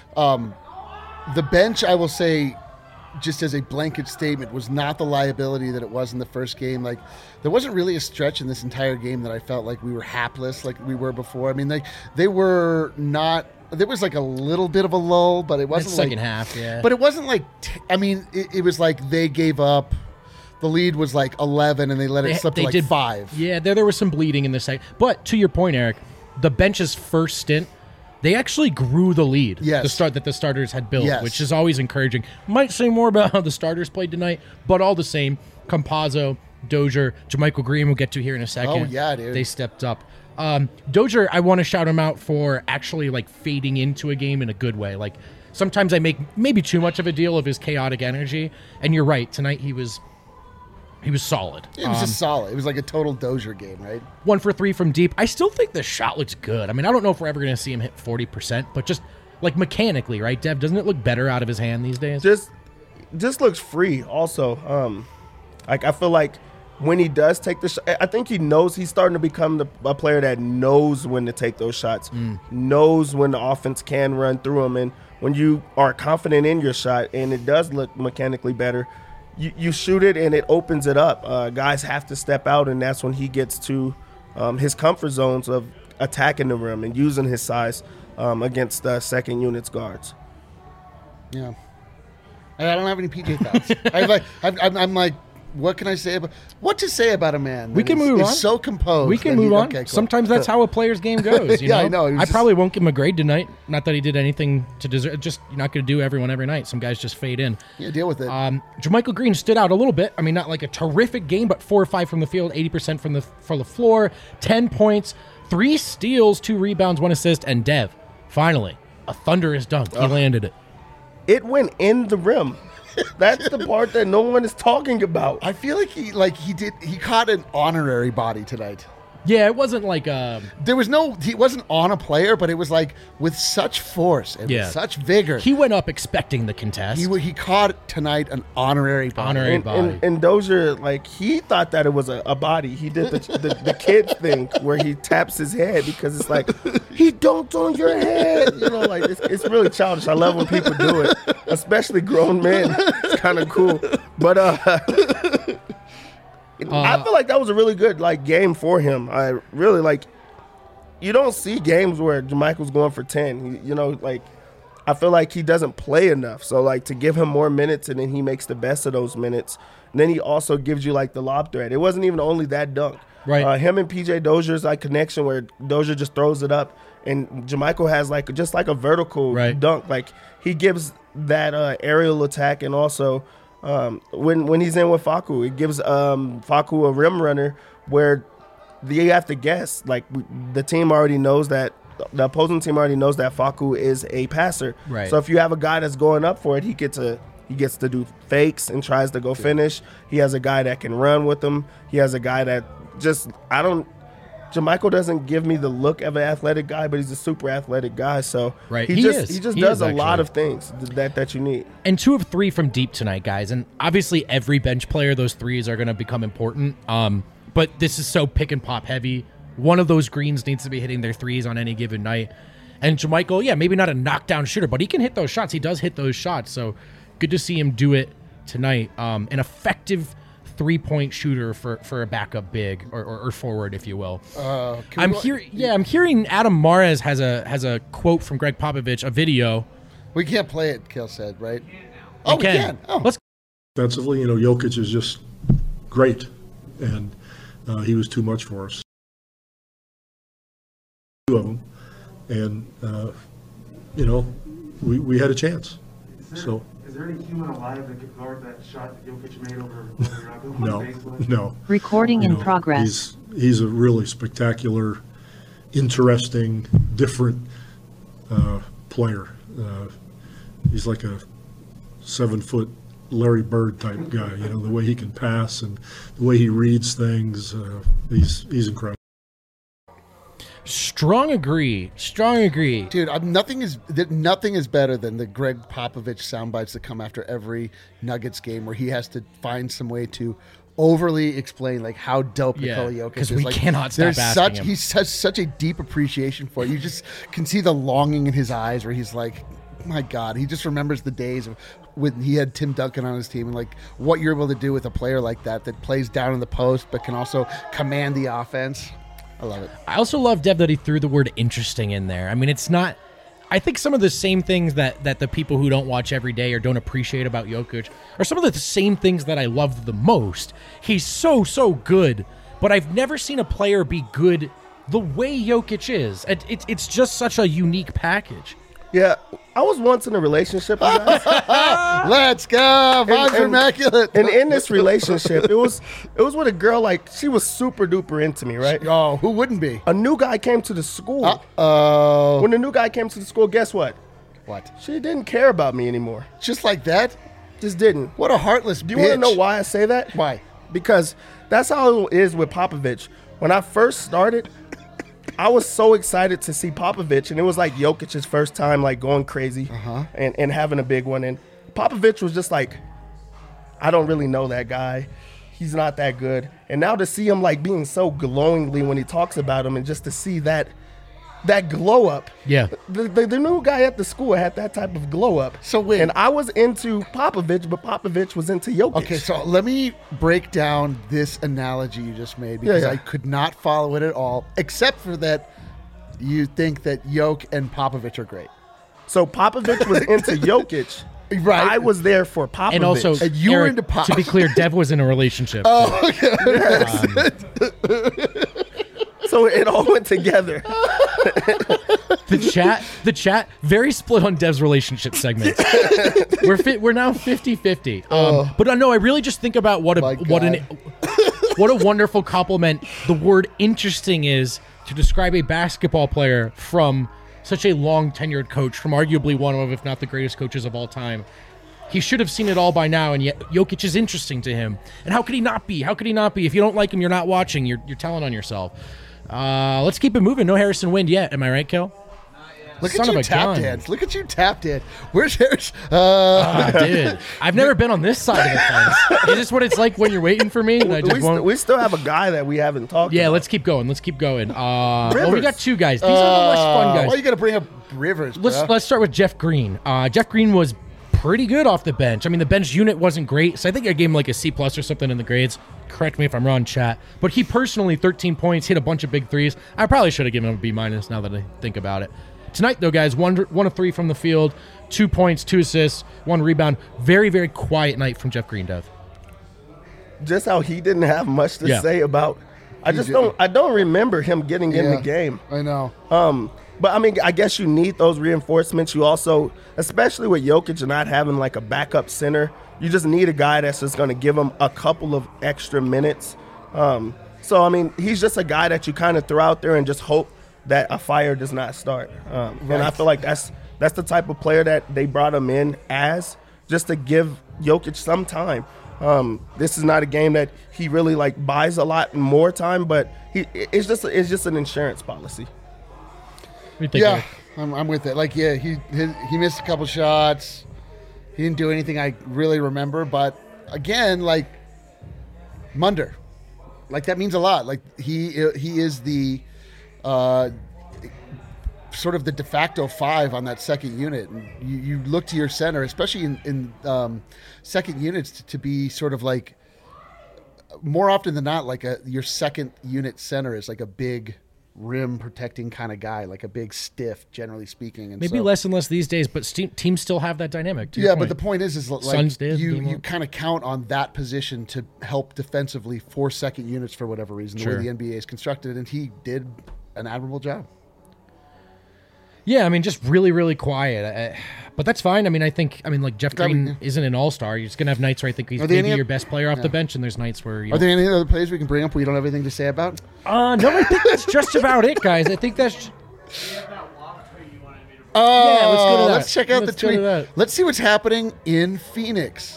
the bench, I will say, just as a blanket statement, was not the liability that it was in the first game. Like, there wasn't really a stretch in this entire game that I felt like we were hapless like we were before. I mean, they were not... There was like a little bit of a lull, but it wasn't second half, yeah. But it wasn't like... I mean, it was like they gave up... The lead was like 11, and they let it slip to like 5. Yeah, there was some bleeding in the second. But to your point, Eric, the bench's first stint, they actually grew the lead. Yes. That the starters had built, which is always encouraging. Might say more about how the starters played tonight, but all the same, Campazzo, Dozier, JaMychal Green we'll get to here in a second. Oh, yeah, dude. They stepped up. Dozier, I want to shout him out for actually like fading into a game in a good way. Like sometimes I make maybe too much of a deal of his chaotic energy, and you're right. Tonight he was solid. It was just solid. It was like a total Dozier game, right? 1 for 3 from deep. I still think the shot looks good. I mean, I don't know if we're ever going to see him hit 40%, but just like mechanically, right, Dev? Doesn't it look better out of his hand these days? Just looks free also. Like I feel like when he does take the shot, I think he knows he's starting to become a player that knows when to take those shots, knows when the offense can run through him. And when you are confident in your shot and it does look mechanically better, you shoot it and it opens it up. Guys have to step out, and that's when he gets to his comfort zones of attacking the rim and using his size against second unit's guards. Yeah. I don't have any PJ thoughts. I'm like, what can I say about what to say about a man? We can move on. So composed. We can move on. Okay, cool. Sometimes that's how a player's game goes. You know? I know. I probably won't give him a grade tonight. Not that he did anything to deserve. Just you're not going to do everyone every night. Some guys just fade in. Yeah, deal with it. JaMychal Green stood out a little bit. I mean, not like a terrific game, but 4 or 5 from the field, 80% from the floor, 10 points, 3 steals, 2 rebounds, 1 assist, and Dev, finally, a thunderous dunk. He landed it. It went in the rim. That's the part that no one is talking about. I feel like he caught an honorary body tonight. Yeah, it wasn't like There was he wasn't on a player, but it was like with such force and with such vigor. He went up expecting the contest. He caught tonight an honorary body. And Dozier, like, he thought that it was a body. He did the kid thing where he taps his head because it's like, he dunked on your head. You know, like, it's really childish. I love when people do it, especially grown men. It's kind of cool. But I feel like that was a really good game for him. I really you don't see games where JaMychal's going for 10. I feel like he doesn't play enough. So to give him more minutes and then he makes the best of those minutes. And then he also gives you the lob threat. It wasn't even only that dunk. Right. Him and PJ Dozier's connection where Dozier just throws it up and JaMychal has just a vertical dunk. He gives that aerial attack and also when he's in with Facu, it gives Facu a rim runner where you have to guess. The team already knows that the opposing team already knows that Facu is a passer. Right. So if you have a guy that's going up for it, he gets to do fakes and tries to go finish. He has a guy that can run with him. He has a guy that JaMychal doesn't give me the look of an athletic guy, but he's a super athletic guy. So he just does a lot of things that you need. And 2 of 3 from deep tonight, guys. And obviously every bench player, those threes are going to become important. But this is so pick and pop heavy. One of those greens needs to be hitting their threes on any given night. And JaMychal, maybe not a knockdown shooter, but he can hit those shots. He does hit those shots. So good to see him do it tonight. An effective 3-point shooter for a backup big or forward, if you will. I'm hearing Adam Mares has a quote from Greg Popovich, a video. We can't play it, Kale said, right? We can. Oh. Let's. Defensively, Jokic is just great, and he was too much for us. 2 of them, and we had a chance. Is there any human alive that could guard that shot that Jokic made over Jaco? No. Recording in progress. He's a really spectacular, interesting, different player. He's like a 7-foot Larry Bird type guy. The way he can pass and the way he reads things. He's incredible. Strong agree. Dude, nothing is better than the Greg Popovich sound bites that come after every Nuggets game where he has to find some way to overly explain how dope Nikola Jokic is. Because we cannot stop asking him. He has such a deep appreciation for it. You just can see the longing in his eyes where he's like, my God, he just remembers the days of when he had Tim Duncan on his team and what you're able to do with a player like that plays down in the post but can also command the offense. I love it. I also love, Dev, that he threw the word interesting in there. I mean, it's not... I think some of the same things that the people who don't watch every day or don't appreciate about Jokic are some of the same things that I love the most. He's so good, but I've never seen a player be good the way Jokic is. It's just such a unique package. Yeah, I was once in a relationship, you guys. Let's go. Vibes are immaculate. And in this relationship, it was with a girl, she was super duper into me, right? Oh, who wouldn't be? A new guy came to the school. Uh-oh. When the new guy came to the school, guess what? What? She didn't care about me anymore. Just like that? Just didn't. What a heartless bitch. Do you want to know why I say that? Why? Because that's how it is with Popovich. When I first started, I was so excited to see Popovich, and it was Jokic's first time going crazy and having a big one. And Popovich was just I don't really know that guy. He's not that good. And now to see him being so glowingly when he talks about him and just to see that glow up. Yeah. The new guy at the school had that type of glow up. So wait. And I was into Popovich, but Popovich was into Jokic. Okay, so let me break down this analogy you just made because I could not follow it at all, except for that you think that Jokic and Popovich are great. So Popovich was into Jokic. Right. I was there for Popovich. And also, and you were Eric, into Pop. to be clear, Dev was in a relationship. Oh, okay. So it all went together. The chat, very split on Dev's relationship segment. We're now 50-50. But no, I really just think about what a wonderful compliment the word interesting is to describe a basketball player from such a long tenured coach, from arguably one of, if not the greatest coaches of all time. He should have seen it all by now, and yet Jokic is interesting to him. And how could he not be? How could he not be? If you don't like him, you're not watching. You're telling on yourself. Let's keep it moving. No Harrison Wind yet. Am I right, Kel? Look Son at of you a tap gun. dance. Look at you tap dance. Where's Harrison? Dude, I've never been on this side of the fence. Is this what it's like when you're waiting for me? And I just won't. We still have a guy that we haven't talked Yeah, about. let's keep going. Well, we got two guys. These are the less fun guys. Why you got to bring up Rivers? Let's start with Jeff Green. Jeff Green was pretty good off the bench. I mean, the bench unit wasn't great, so I think I gave him like a C+ or something in the grades. Correct me if I'm wrong, chat. But he personally, 13 points, hit a bunch of big threes. I probably should have given him a B- now that I think about it. Tonight, though, guys, one of 3 from the field, 2 points, 2 assists, 1 rebound. Very, very quiet night from Jeff Green, Dev. Just how he didn't have much to say about. I don't remember him getting in the game. I know. But I mean, I guess you need those reinforcements. You also, especially with Jokic not having like a backup center, you just need a guy that's just going to give him a couple of extra minutes. So I mean, he's just a guy that you kind of throw out there and just hope that a fire does not start. And I feel like that's the type of player that they brought him in as, just to give Jokic some time. This is not a game that he really like buys a lot more time, but it's just an insurance policy. Yeah, I'm with it. Like, yeah, he missed a couple shots. He didn't do anything I really remember, but again, like Munder, like that means a lot. Like he is the sort of the de facto 5 on that second unit. And you look to your center, especially in second units, to be sort of like more often than not, like your second unit center is like a big rim protecting kind of guy, like a big stiff, generally speaking. And maybe less and less these days, but teams still have that dynamic. Yeah, but the point is like Suns did, you kind of count on that position to help defensively for second units for whatever reason, the way the NBA is constructed, and he did an admirable job. Yeah, I mean, just really, really quiet. But that's fine. I mean, like Jeff Green isn't an all-star. You're just going to have nights where I think he's maybe your best player off the bench, and there's nights where Are there any other players we can bring up where you don't have anything to say about? No, I think that's just about it, guys. I think that's... Oh, yeah, let's go to that. Let's check out the tweet. Let's see what's happening in Phoenix.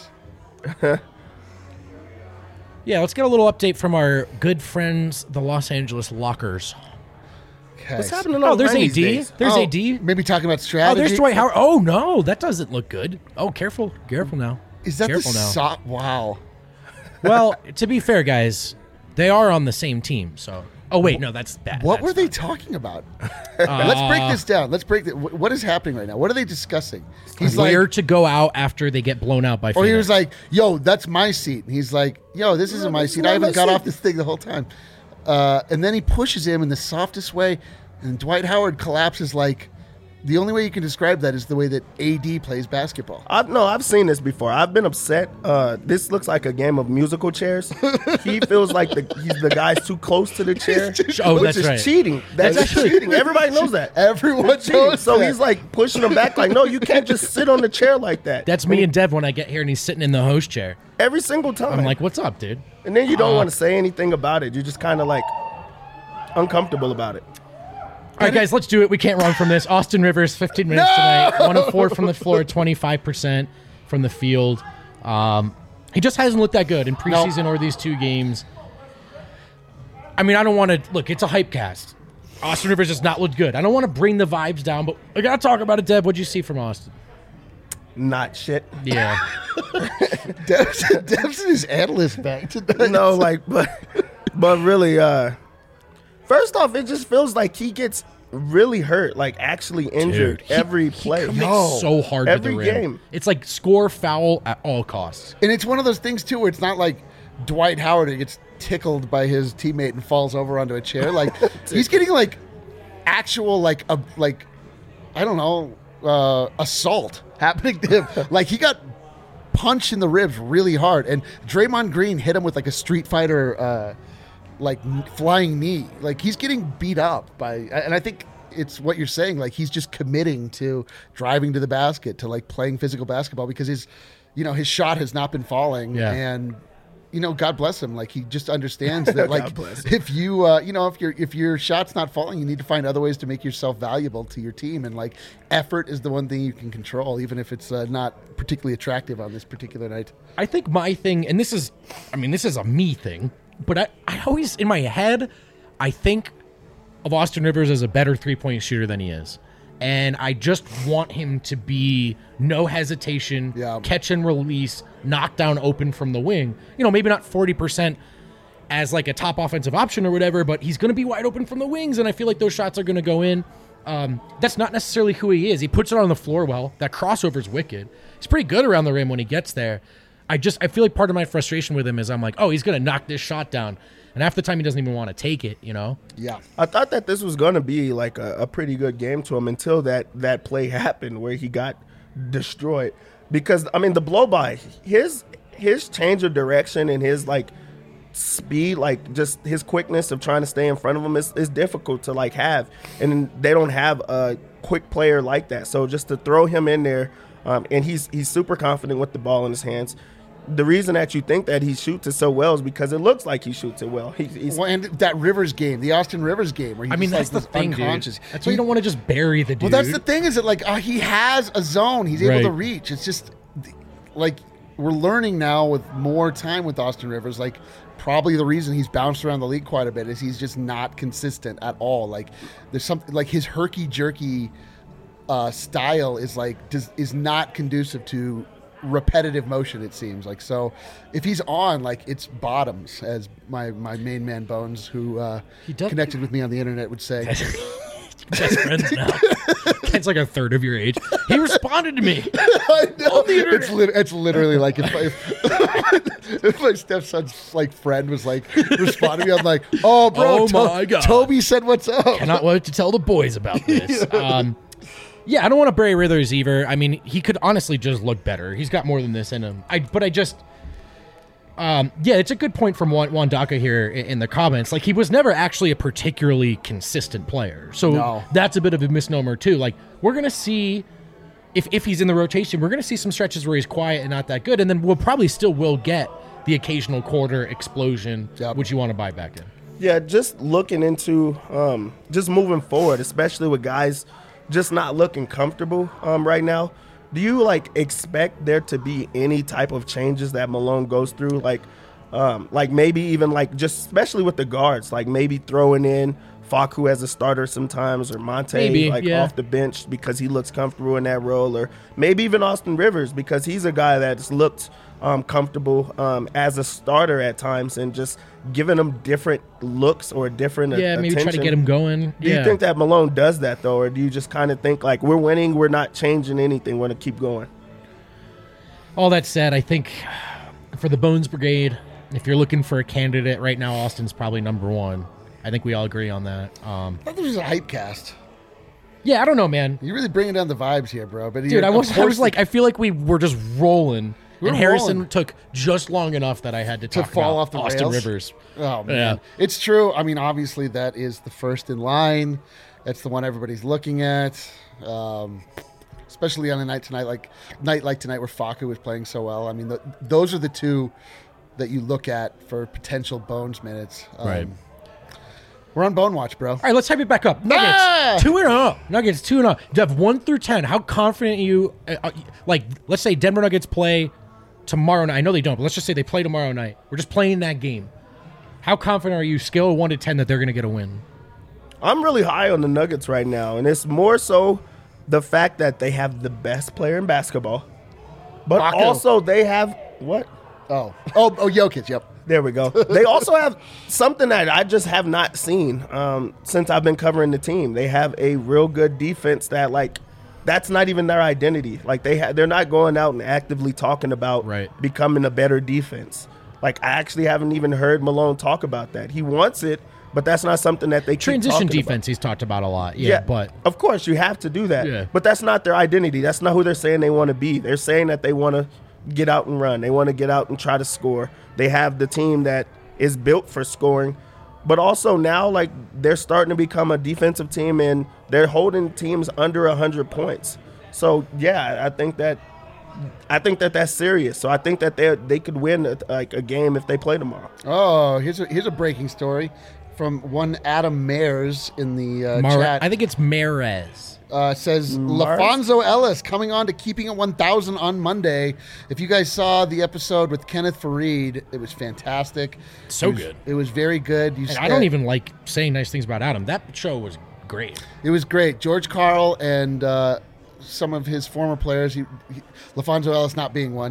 Yeah, let's get a little update from our good friends, the Los Angeles Lockers. What's happening? There's AD. Days? There's AD. Maybe talking about strategy. Oh, there's Dwight Howard. Oh no, that doesn't look good. Oh, careful now. Is that careful the wow? Well, to be fair, guys, they are on the same team. So, oh wait, no, that's bad. What were they talking about? Let's break this down. Let's break it. What is happening right now? What are they discussing? He's where to go out after they get blown out by. Or he was like, "Yo, that's my seat." And he's like, "Yo, this isn't my seat. I haven't got off this thing the whole time." And then he pushes him in the softest way, and Dwight Howard collapses. Like, the only way you can describe that is the way that AD plays basketball. I've seen this before. I've been upset. This looks like a game of musical chairs. He feels like he's the guy's too close to the chair. Which is right. Cheating. That's cheating. Everybody knows that. Everyone knows So that. he's like pushing him back. Like, no, you can't just sit on the chair like that. That's me and Dev when I get here and he's sitting in the host chair. Every single time. I'm like, what's up, dude? And then you don't want to say anything about it. You're just kind of like uncomfortable about it. All right, guys, let's do it. We can't run from this. Austin Rivers, 15 minutes tonight. 1 of 4 from the floor, 25% from the field. He just hasn't looked that good in preseason or these 2 games. I mean, I don't want to look. It's a hype cast. Austin Rivers has not looked good. I don't want to bring the vibes down, but I got to talk about it, Deb. What'd you see from Austin? Not shit. Yeah. Dev's in his analyst bag tonight. No, like, but really, first off, it just feels like he gets really hurt, like actually injured every play. He commits so hard every to the rim. game. It's like score foul at all costs. And it's one of those things, too, where it's not like Dwight Howard who gets tickled by his teammate and falls over onto a chair. Like, he's getting, like, actual, I don't know, assault happening to him. Like, he got punched in the ribs really hard. And Draymond Green hit him with, like, a Street Fighter, flying knee. Like, he's getting beat up and I think it's what you're saying. Like, he's just committing to driving to the basket, to, like, playing physical basketball because his shot has not been falling. Yeah. And, God bless him. Like, he just understands that, like, if if your shot's not falling, you need to find other ways to make yourself valuable to your team. And, like, effort is the one thing you can control, even if it's not particularly attractive on this particular night. I think my thing, and this is a me thing, but I always, in my head, I think of Austin Rivers as a better three-point shooter than he is. And I just want him to be no hesitation, catch and release, knock down open from the wing. You know, maybe not 40% as like a top offensive option or whatever, but he's going to be wide open from the wings, and I feel like those shots are going to go in. That's not necessarily who he is. He puts it on the floor well. That crossover's wicked. He's pretty good around the rim when he gets there. I feel like part of my frustration with him is I'm like, oh, he's going to knock this shot down. And half the time he doesn't even want to take it, you know? Yeah. I thought that this was going to be like a pretty good game to him until that play happened where he got destroyed. Because, I mean, the blow-by, his change of direction and his, like, speed, like just his quickness of trying to stay in front of him is difficult to like have, and they don't have a quick player like that. So just to throw him in there, and he's super confident with the ball in his hands. The reason that you think that he shoots it so well is because it looks like he shoots it well. Well, and that Rivers game, the Austin Rivers game, where he's that's like the thing, unconscious. Dude. That's why you don't want to just bury the dude. Well, that's the thing is that like he has a zone he's able to reach. It's just like we're learning now with more time with Austin Rivers, like probably the reason he's bounced around the league quite a bit is he's just not consistent at all. Like there's something like his herky-jerky style is not conducive to repetitive motion, it seems like. So if he's on, like, it's bottoms, as my main man Bones, who connected with me on the internet, would say. Best friends now. It's like a third of your age. He responded to me. I know. It's literally like if my stepson's like friend was like responding to me, I'm like, oh bro, my God. Toby said what's up. Cannot wait to tell the boys about this. Yeah, I don't want to bury Rivers either. I mean, he could honestly just look better. He's got more than this in him. It's a good point from Wandaka here in the comments. Like, he was never actually a particularly consistent player. So that's a bit of a misnomer, too. Like, we're going to see, if he's in the rotation, we're going to see some stretches where he's quiet and not that good. And then we'll probably still will get the occasional quarter explosion, which you want to buy back in. Yeah, just looking into, just moving forward, especially with guys just not looking comfortable right now. Do you like expect there to be any type of changes that Malone goes through? Like maybe even like just especially with the guards, like maybe throwing in Facu as a starter sometimes, or Monte off the bench because he looks comfortable in that role, or maybe even Austin Rivers because he's a guy that's looked comfortable as a starter at times, and just giving them different looks or different maybe try to get him going. Do you think that Malone does that though, or do you just kind of think like we're winning, we're not changing anything, we're going to keep going? All that said, I think for the Bones Brigade, if you're looking for a candidate right now, Austin's probably number one. I think we all agree on that. I thought this was a hype cast. Yeah, I don't know, man. You're really bringing down the vibes here, bro. But dude, I was like, I feel like we were just rolling. And Harrison took just long enough that I had to fall off the Austin rails? Rivers. Oh, man. Yeah. It's true. I mean, obviously, that is the first in line. That's the one everybody's looking at. Especially on a night like tonight where Facu was playing so well. I mean, those are the two that you look at for potential Bones minutes. Right. We're on Bone Watch, bro. All right, let's hype it back up. Nuggets 2-0. Nuggets 2-0. Dev, 1 through 10. How confident are you? Let's say Denver Nuggets play tomorrow night. I know they don't, but let's just say they play tomorrow night. We're just playing that game. How confident are you, scale of 1 to 10, that they're going to get a win? I'm really high on the Nuggets right now, and it's more so the fact that they have the best player in basketball, but also they have what? Oh, Jokic. Yep. There we go. They also have something that I just have not seen since I've been covering the team. They have a real good defense that, like, that's not even their identity. Like, they're not going out and actively talking about becoming a better defense. Like, I actually haven't even heard Malone talk about that. He wants it, but that's not something that they keep transition talking defense about. He's talked about a lot. Yeah, but of course you have to do that. Yeah. But that's not their identity. That's not who they're saying they want to be. They're saying that they want to get out and run. They want to get out and try to score. They have the team that is built for scoring, but also now, like, they're starting to become a defensive team, and they're holding teams under 100 points. So yeah, I think that that's serious. So I think that they could win a game if they play tomorrow. Oh, here's a breaking story. from one Adam Mayers in the chat. I think it's Mares. Says LaFonso Ellis coming on to Keeping It 1000 on Monday. If you guys saw the episode with Kenneth Farid, it was fantastic. Good. It was very good. And I don't even like saying nice things about Adam. That show was great. It was great. George Karl and some of his former players, LaFonso Ellis not being one,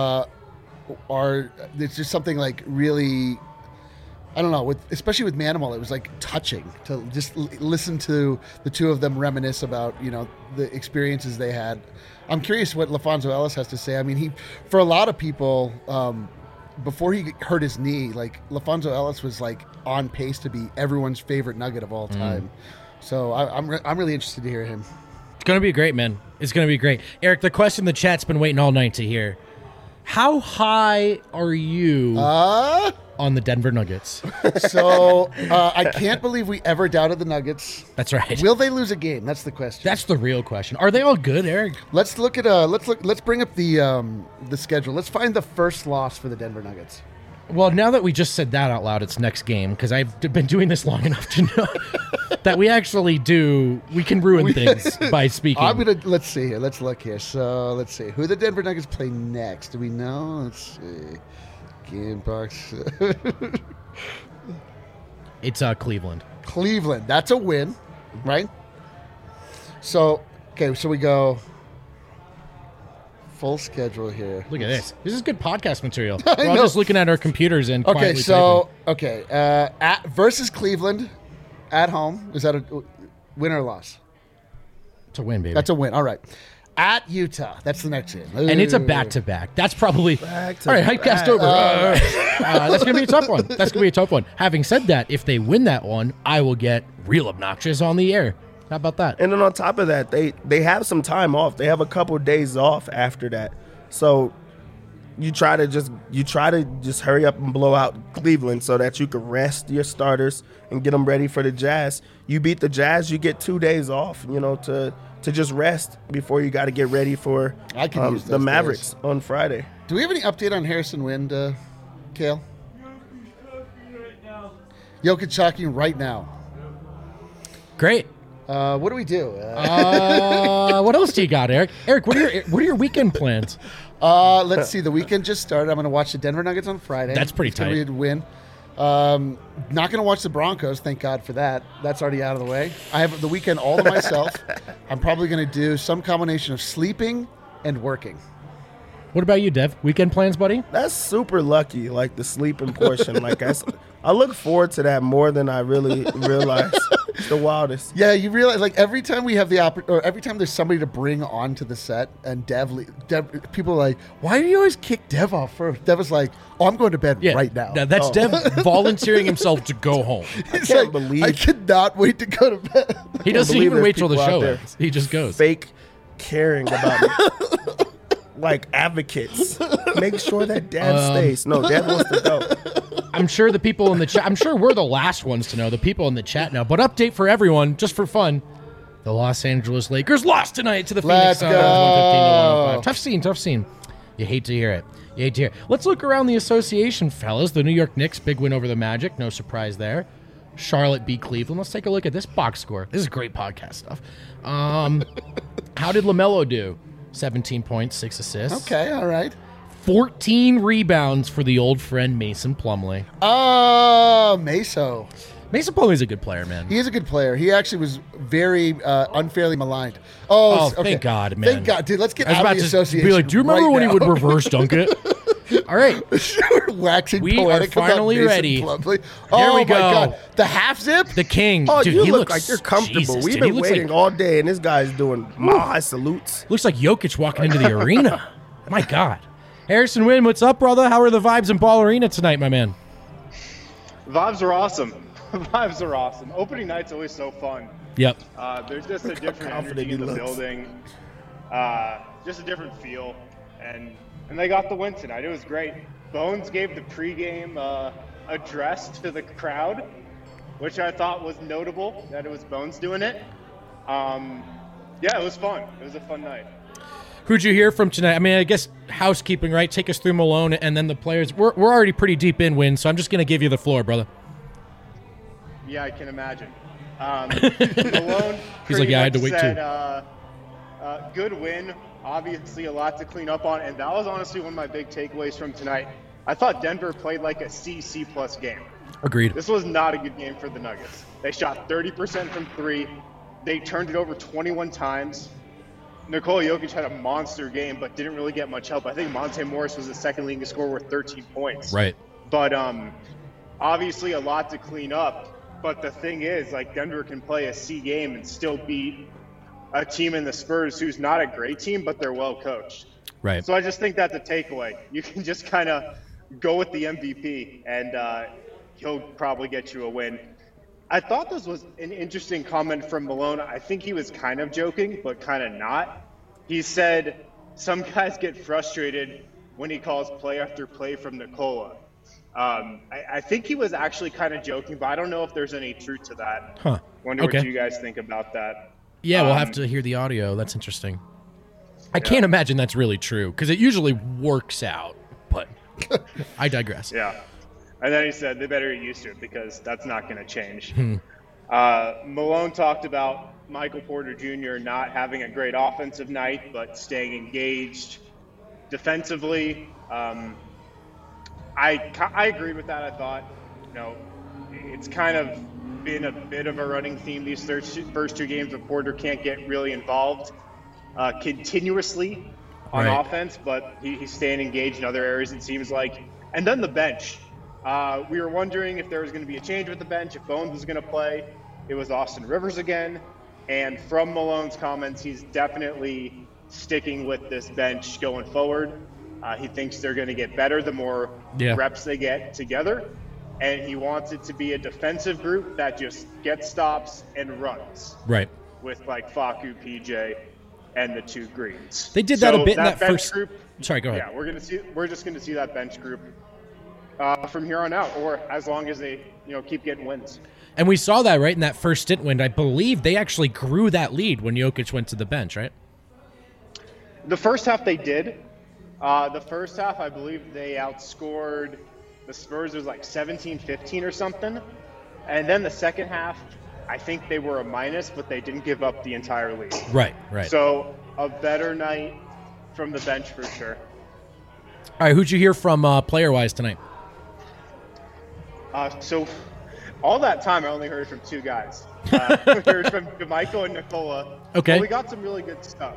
it's just something like really, I don't know, especially with Manimal, it was like touching to just listen to the two of them reminisce about, the experiences they had. I'm curious what LaFonso Ellis has to say. I mean, for a lot of people, before he hurt his knee, like LaFonso Ellis was like on pace to be everyone's favorite Nugget of all time. So I'm really interested to hear him. It's going to be great, man. It's going to be great. Eric, the question the chat's been waiting all night to hear. How high are you on the Denver Nuggets? So I can't believe we ever doubted the Nuggets. That's right. Will they lose a game? That's the question. That's the real question. Are they all good, Eric? Let's look at let's bring up the schedule. Let's find the first loss for the Denver Nuggets. Well, now that we just said that out loud, it's next game, because I've been doing this long enough to know that we can ruin things by speaking. Let's see here. Let's look here. So let's see. Who the Denver Nuggets play next? Do we know? Let's see. Game box. It's Cleveland. Cleveland. That's a win, right? So, okay, so we go full schedule here. Look at this. This is good podcast material. We're all just looking at our computers and quietly typing. Versus Cleveland at home. Is that a win or a loss? It's a win, baby. That's a win. All right. At Utah. That's the next game. And it's a back-to-back. That's probably... All right, Hypecast over. That's going to be a tough one. That's going to be a tough one. Having said that, if they win that one, I will get real obnoxious on the air. How about that? And then on top of that, they have some time off. They have a couple of days off after that. So you try to just hurry up and blow out Cleveland so that you can rest your starters and get them ready for the Jazz. You beat the Jazz, you get 2 days off, to just rest before you got to get ready for the Mavericks on Friday. Do we have any update on Harrison Wind, Kale? Jokic shocking right now. Great. What do we do? What else do you got, Eric? Eric, what are your weekend plans? Let's see. The weekend just started. I'm going to watch the Denver Nuggets on Friday. That's pretty tight. It's going to be a win. Not going to watch the Broncos. Thank God for that. That's already out of the way. I have the weekend all to myself. I'm probably going to do some combination of sleeping and working. What about you, Dev? Weekend plans, buddy? That's super lucky, like the sleeping portion. I look forward to that more than I really realize. It's the wildest. Yeah, you realize, like, every time we have every time there's somebody to bring onto the set, and Dev, people are like, why do you always kick Dev off first? Dev is like, I'm going to bed right now. That's Dev volunteering himself to go home. I can't believe. I cannot wait to go to bed. He doesn't even wait till the show ends. He just goes. Fake caring about me. Like advocates. Make sure that Dad stays. No, Dad wants to go. I'm sure the people in the chat, I'm sure we're the last ones to know. The people in the chat know. But update for everyone, just for fun. The Los Angeles Lakers lost tonight to the Phoenix Suns. 115-105. Tough scene. You hate to hear it. Let's look around the association, fellas. The New York Knicks, big win over the Magic. No surprise there. Charlotte beat Cleveland. Let's take a look at this box score. This is great podcast stuff. How did LaMelo do? 17 points, 6 assists. Okay, all right. 14 rebounds for the old friend Mason Plumlee. Meso. Mason Plumlee's a good player, man. He is a good player. He actually was very unfairly maligned. Okay. Thank God, man. Thank God, dude. Let's get out of the association. Be like, do you remember when he would reverse dunk it? All right. Waxing we poetic are finally ready. Oh, Here my we go. God. The half zip? The king. Oh, dude, you he look looks like you're comfortable. Jesus, We've dude, been waiting all day, and this guy's doing mile-high salutes. Looks like Jokic walking into the arena. My God. Harrison Wind, what's up, brother? How are the vibes in Ball Arena tonight, my man? Vibes are awesome. Vibes are awesome. Opening night's always so fun. Yep. There's just a different energy in the building. Just a different feel. And they got the win tonight. It was great. Bones gave the pregame address to the crowd, which I thought was notable that it was Bones doing it. Yeah, it was fun. It was a fun night. Who'd you hear from tonight? I mean, I guess housekeeping, right? Take us through Malone and then the players. We're already pretty deep in wins, so I'm just going to give you the floor, brother. Yeah, I can imagine. Malone He's like, yeah, I had to wait said, too. Good win. Obviously, a lot to clean up on, and that was honestly one of my big takeaways from tonight. I thought Denver played like a C+ game. Agreed. This was not a good game for the Nuggets. They shot 30% from 3. They turned it over 21 times. Nikola Jokic had a monster game, but didn't really get much help. I think Monte Morris was the second leading scorer with 13 points. Right. But obviously a lot to clean up. But the thing is, like, Denver can play a C game and still beat a team in the Spurs who's not a great team, but they're well coached. Right. So I just think that's a takeaway. You can just kind of go with the MVP, and he'll probably get you a win. I thought this was an interesting comment from Malone. I think he was kind of joking, but kind of not. He said some guys get frustrated when he calls play after play from Nikola. I think he was actually kind of joking, but I don't know if there's any truth to that. Huh. Wonder what you guys think about that. Yeah, we'll have to hear the audio. That's interesting. I can't imagine that's really true, because it usually works out, but I digress. Yeah. And then he said they better get used to it because that's not going to change. Malone talked about Michael Porter Jr. not having a great offensive night, but staying engaged defensively. I agreed with that. I thought, it's kind of been a bit of a running theme these first 2 games where Porter can't get really involved continuously on offense, but he's staying engaged in other areas, it seems like. And then the bench. We were wondering if there was going to be a change with the bench, if Bones was going to play. It was Austin Rivers again. And from Malone's comments, he's definitely sticking with this bench going forward. He thinks they're going to get better the more reps they get together. And he wants it to be a defensive group that just gets stops and runs. Right. With like Facu, PJ, and the 2 Greens. They did that a bit in that bench first group. Sorry, go ahead. Yeah, we're just going to see that bench group from here on out, or as long as they keep getting wins. And we saw that right in that first stint win. I believe they actually grew that lead when Jokic went to the bench, right? The first half they did. The first half, I believe they outscored the Spurs. It was like 17-15 or something. And then the second half, I think they were a minus, but they didn't give up the entire lead. Right. So a better night from the bench for sure. All right, who'd you hear from player-wise tonight? So all that time, I only heard from 2 guys. We heard from JaMychal and Nikola. Okay. But we got some really good stuff.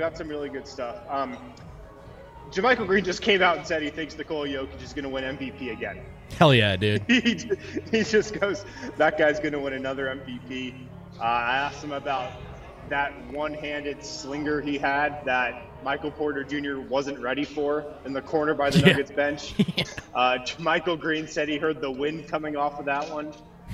JaMychal Green just came out and said he thinks Nikola Jokic is going to win MVP again. Hell yeah, dude. He just goes, that guy's going to win another MVP. I asked him about that one-handed slinger he had that Michael Porter Jr. wasn't ready for in the corner by the Nuggets bench. JaMychal Green said he heard the wind coming off of that one.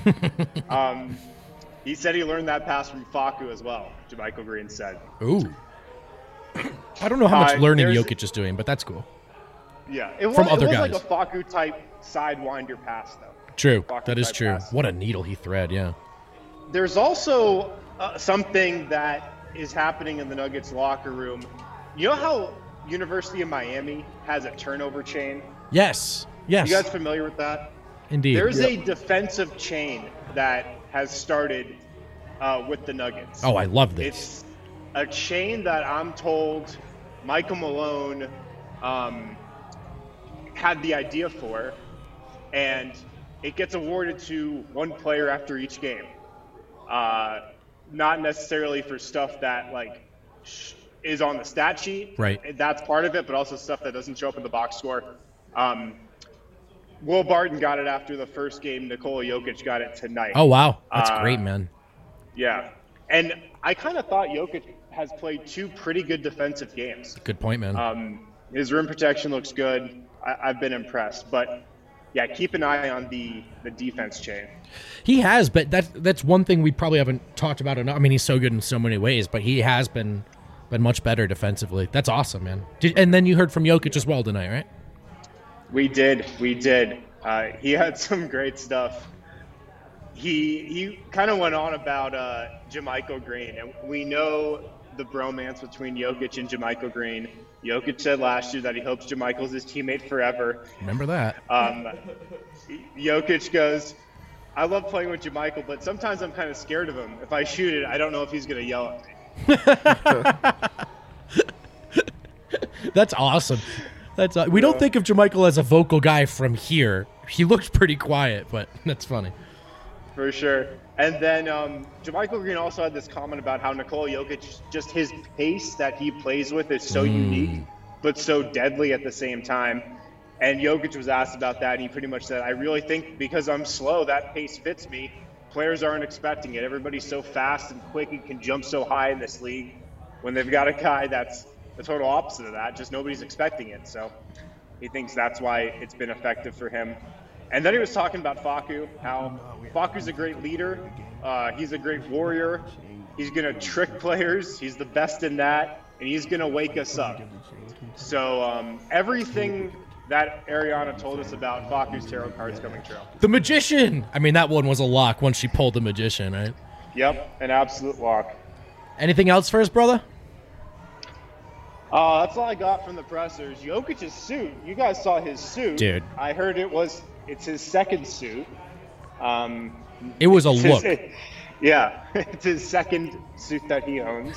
He said he learned that pass from Facu as well, JaMychal Green said. Ooh. I don't know how much learning Jokic is doing, but that's cool. Yeah, it was other guys. like a Facu-type sidewinder pass, though. True, that is true. Pass. What a needle he thread, yeah. There's also something that is happening in the Nuggets locker room. You know how University of Miami has a turnover chain? Yes. You guys familiar with that? Indeed. There's a defensive chain that has started with the Nuggets. Oh, I love this. It's a chain that I'm told Michael Malone had the idea for, and it gets awarded to one player after each game. Not necessarily for stuff that is on the stat sheet. Right. That's part of it, but also stuff that doesn't show up in the box score. Will Barton got it after the first game. Nikola Jokic got it tonight. Oh, wow. That's great, man. Yeah. And I kind of thought Jokic has played 2 pretty good defensive games. Good point, man. His rim protection looks good. I've been impressed. But, yeah, keep an eye on the defense chain. He has, but that's one thing we probably haven't talked about enough. I mean, he's so good in so many ways, but he has been much better defensively. That's awesome, man. And then you heard from Jokic as well tonight, right? We did. He had some great stuff. He kind of went on about JaMychal Green, and we know the bromance between Jokic and JaMychal Green. Jokic said last year that he hopes JaMychal's his teammate forever. Remember that. Jokic goes, I love playing with JaMychal, but sometimes I'm kind of scared of him. If I shoot it, I don't know if he's going to yell at me. That's awesome. We don't think of JaMychal as a vocal guy from here. He looks pretty quiet, but that's funny. For sure. And then JaMychal Green also had this comment about how Nikola Jokic, just his pace that he plays with is so unique, but so deadly at the same time. And Jokic was asked about that, and he pretty much said, I really think because I'm slow, that pace fits me. Players aren't expecting it. Everybody's so fast and quick and can jump so high in this league. When they've got a guy that's the total opposite of that, just nobody's expecting it. So he thinks that's why it's been effective for him. And then he was talking about Facu, how Facu's a great leader. He's a great warrior. He's going to trick players. He's the best in that, and he's going to wake us up. So everything that Ariana told us about Facu's tarot cards coming true. The Magician! I mean, that one was a lock once she pulled the Magician, right? Yep, an absolute lock. Anything else for us, brother? That's all I got from the pressers. Jokic's suit. You guys saw his suit. Dude. I heard it's his second suit. It was a look. Yeah, it's his second suit that he owns.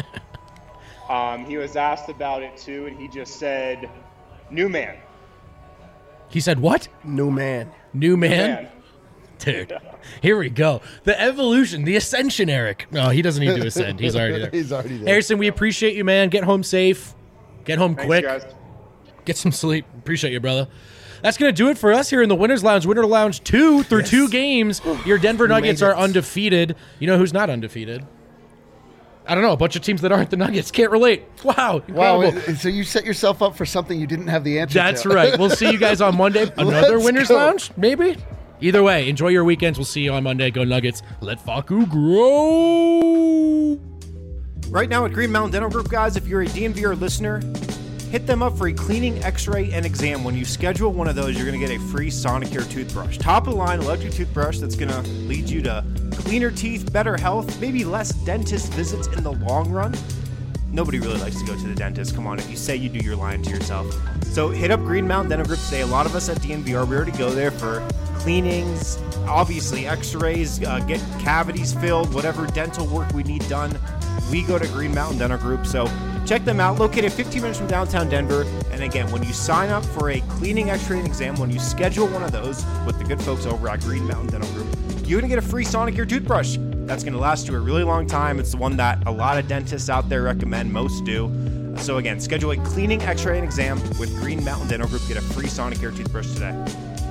He was asked about it too, and he just said, "New man." He said what? New man. New man? Dude, here we go. The evolution, the ascension, Eric. No, he doesn't need to ascend. He's already there. He's already there. Harrison, we appreciate you, man. Get home safe. Get home quick. Thanks, guys. Get some sleep. Appreciate you, brother. That's going to do it for us here in the Winners Lounge. Winter Lounge 2 through 2 games. Your Denver Nuggets are undefeated. You know who's not undefeated? I don't know. A bunch of teams that aren't the Nuggets. Can't relate. Wow. Incredible. Wow. So you set yourself up for something you didn't have the answer That's to. right. We'll see you guys on Monday. Another Winners Lounge? Maybe? Either way, enjoy your weekends. We'll see you on Monday. Go Nuggets. Let Facu grow. Right now at Green Mountain Dental Group, guys, if you're a DNVR listener, hit them up for a cleaning, x-ray, and exam. When you schedule one of ththose, you're going to get a free Sonicare toothbrush. Top-of-the-line electric toothbrush that's going to lead you to cleaner teeth, better health, maybe less dentist visits in the long run. Nobody really likes to go to the dentist. Come on, if you say you do, you're lying to yourself. So hit up Green Mountain Dental Group today. A lot of us at DNVR, we already go there for cleanings, obviously x-rays, get cavities filled, whatever dental work we need done. We go to Green Mountain Dental Group. So check them out, located 15 minutes from downtown Denver. And again, when you sign up for a cleaning, x-ray, and exam, when you schedule one of those with the good folks over at Green Mountain Dental Group, you're going to get a free Sonicare toothbrush. That's going to last you a really long time. It's the one that a lot of dentists out there recommend, most do. So again, schedule a cleaning, x-ray, and exam with Green Mountain Dental Group. Get a free Sonicare toothbrush today.